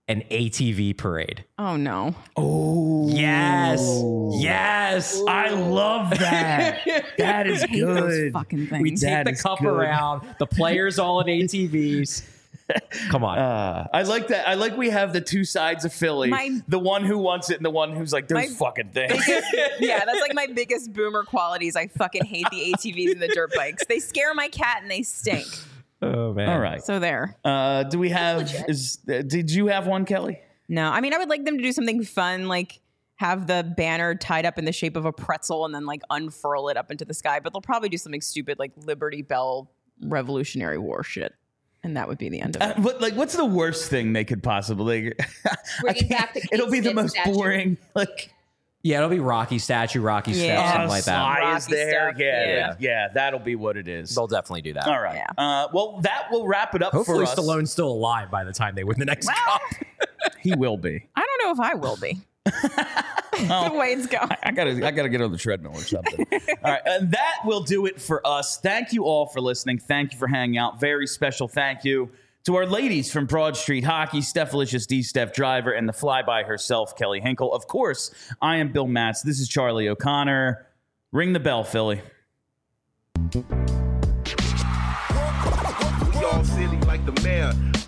an A T V parade. Oh no. Oh, Yes. Yes. I love that. That is I hate those good. fucking things. We take That the is cup good. around, the players all in A T Vs. Come on. Uh, I like that. I like we have the two sides of Philly. My- the one who wants it and the one who's like, those My fucking things. Yeah, that's like my biggest boomer qualities. I fucking hate the A T Vs and the dirt bikes. They scare my cat and they stink. oh, man. All right. So there. Uh, do we have, Legit. is, uh, did you have one, Kelly? No, I mean, I would like them to do something fun, like have the banner tied up in the shape of a pretzel and then like unfurl it up into the sky. But they'll probably do something stupid like Liberty Bell Revolutionary War shit. And that would be the end of it. Uh, but like, what's the worst thing they could possibly? I Bringing can't- back the Kate It'll be the Smith most statue. boring. Like, Yeah, it'll be Rocky statue, Rocky Yeah. stuff, something uh, like that. Sly is Rocky there. stuff, Yeah, yeah, yeah. yeah. That'll be what it is. They'll definitely do that. All right. Yeah. Uh, well, that will wrap it up Hopefully for us. Stallone's still alive by the time they win the next cup. He will be. I don't know if I will be. The way it's going. I gotta, I gotta get on the treadmill or something. All right, and that will do it for us. Thank you all for listening. Thank you for hanging out. Very special thank you to our ladies from Broad Street Hockey, Stephalicious D. Steph Driver, and the flyby herself, Kelly Hinkle. Of course, I am Bill Matz. This is Charlie O'Connor. Ring the bell, Philly. We all silly like the mayor.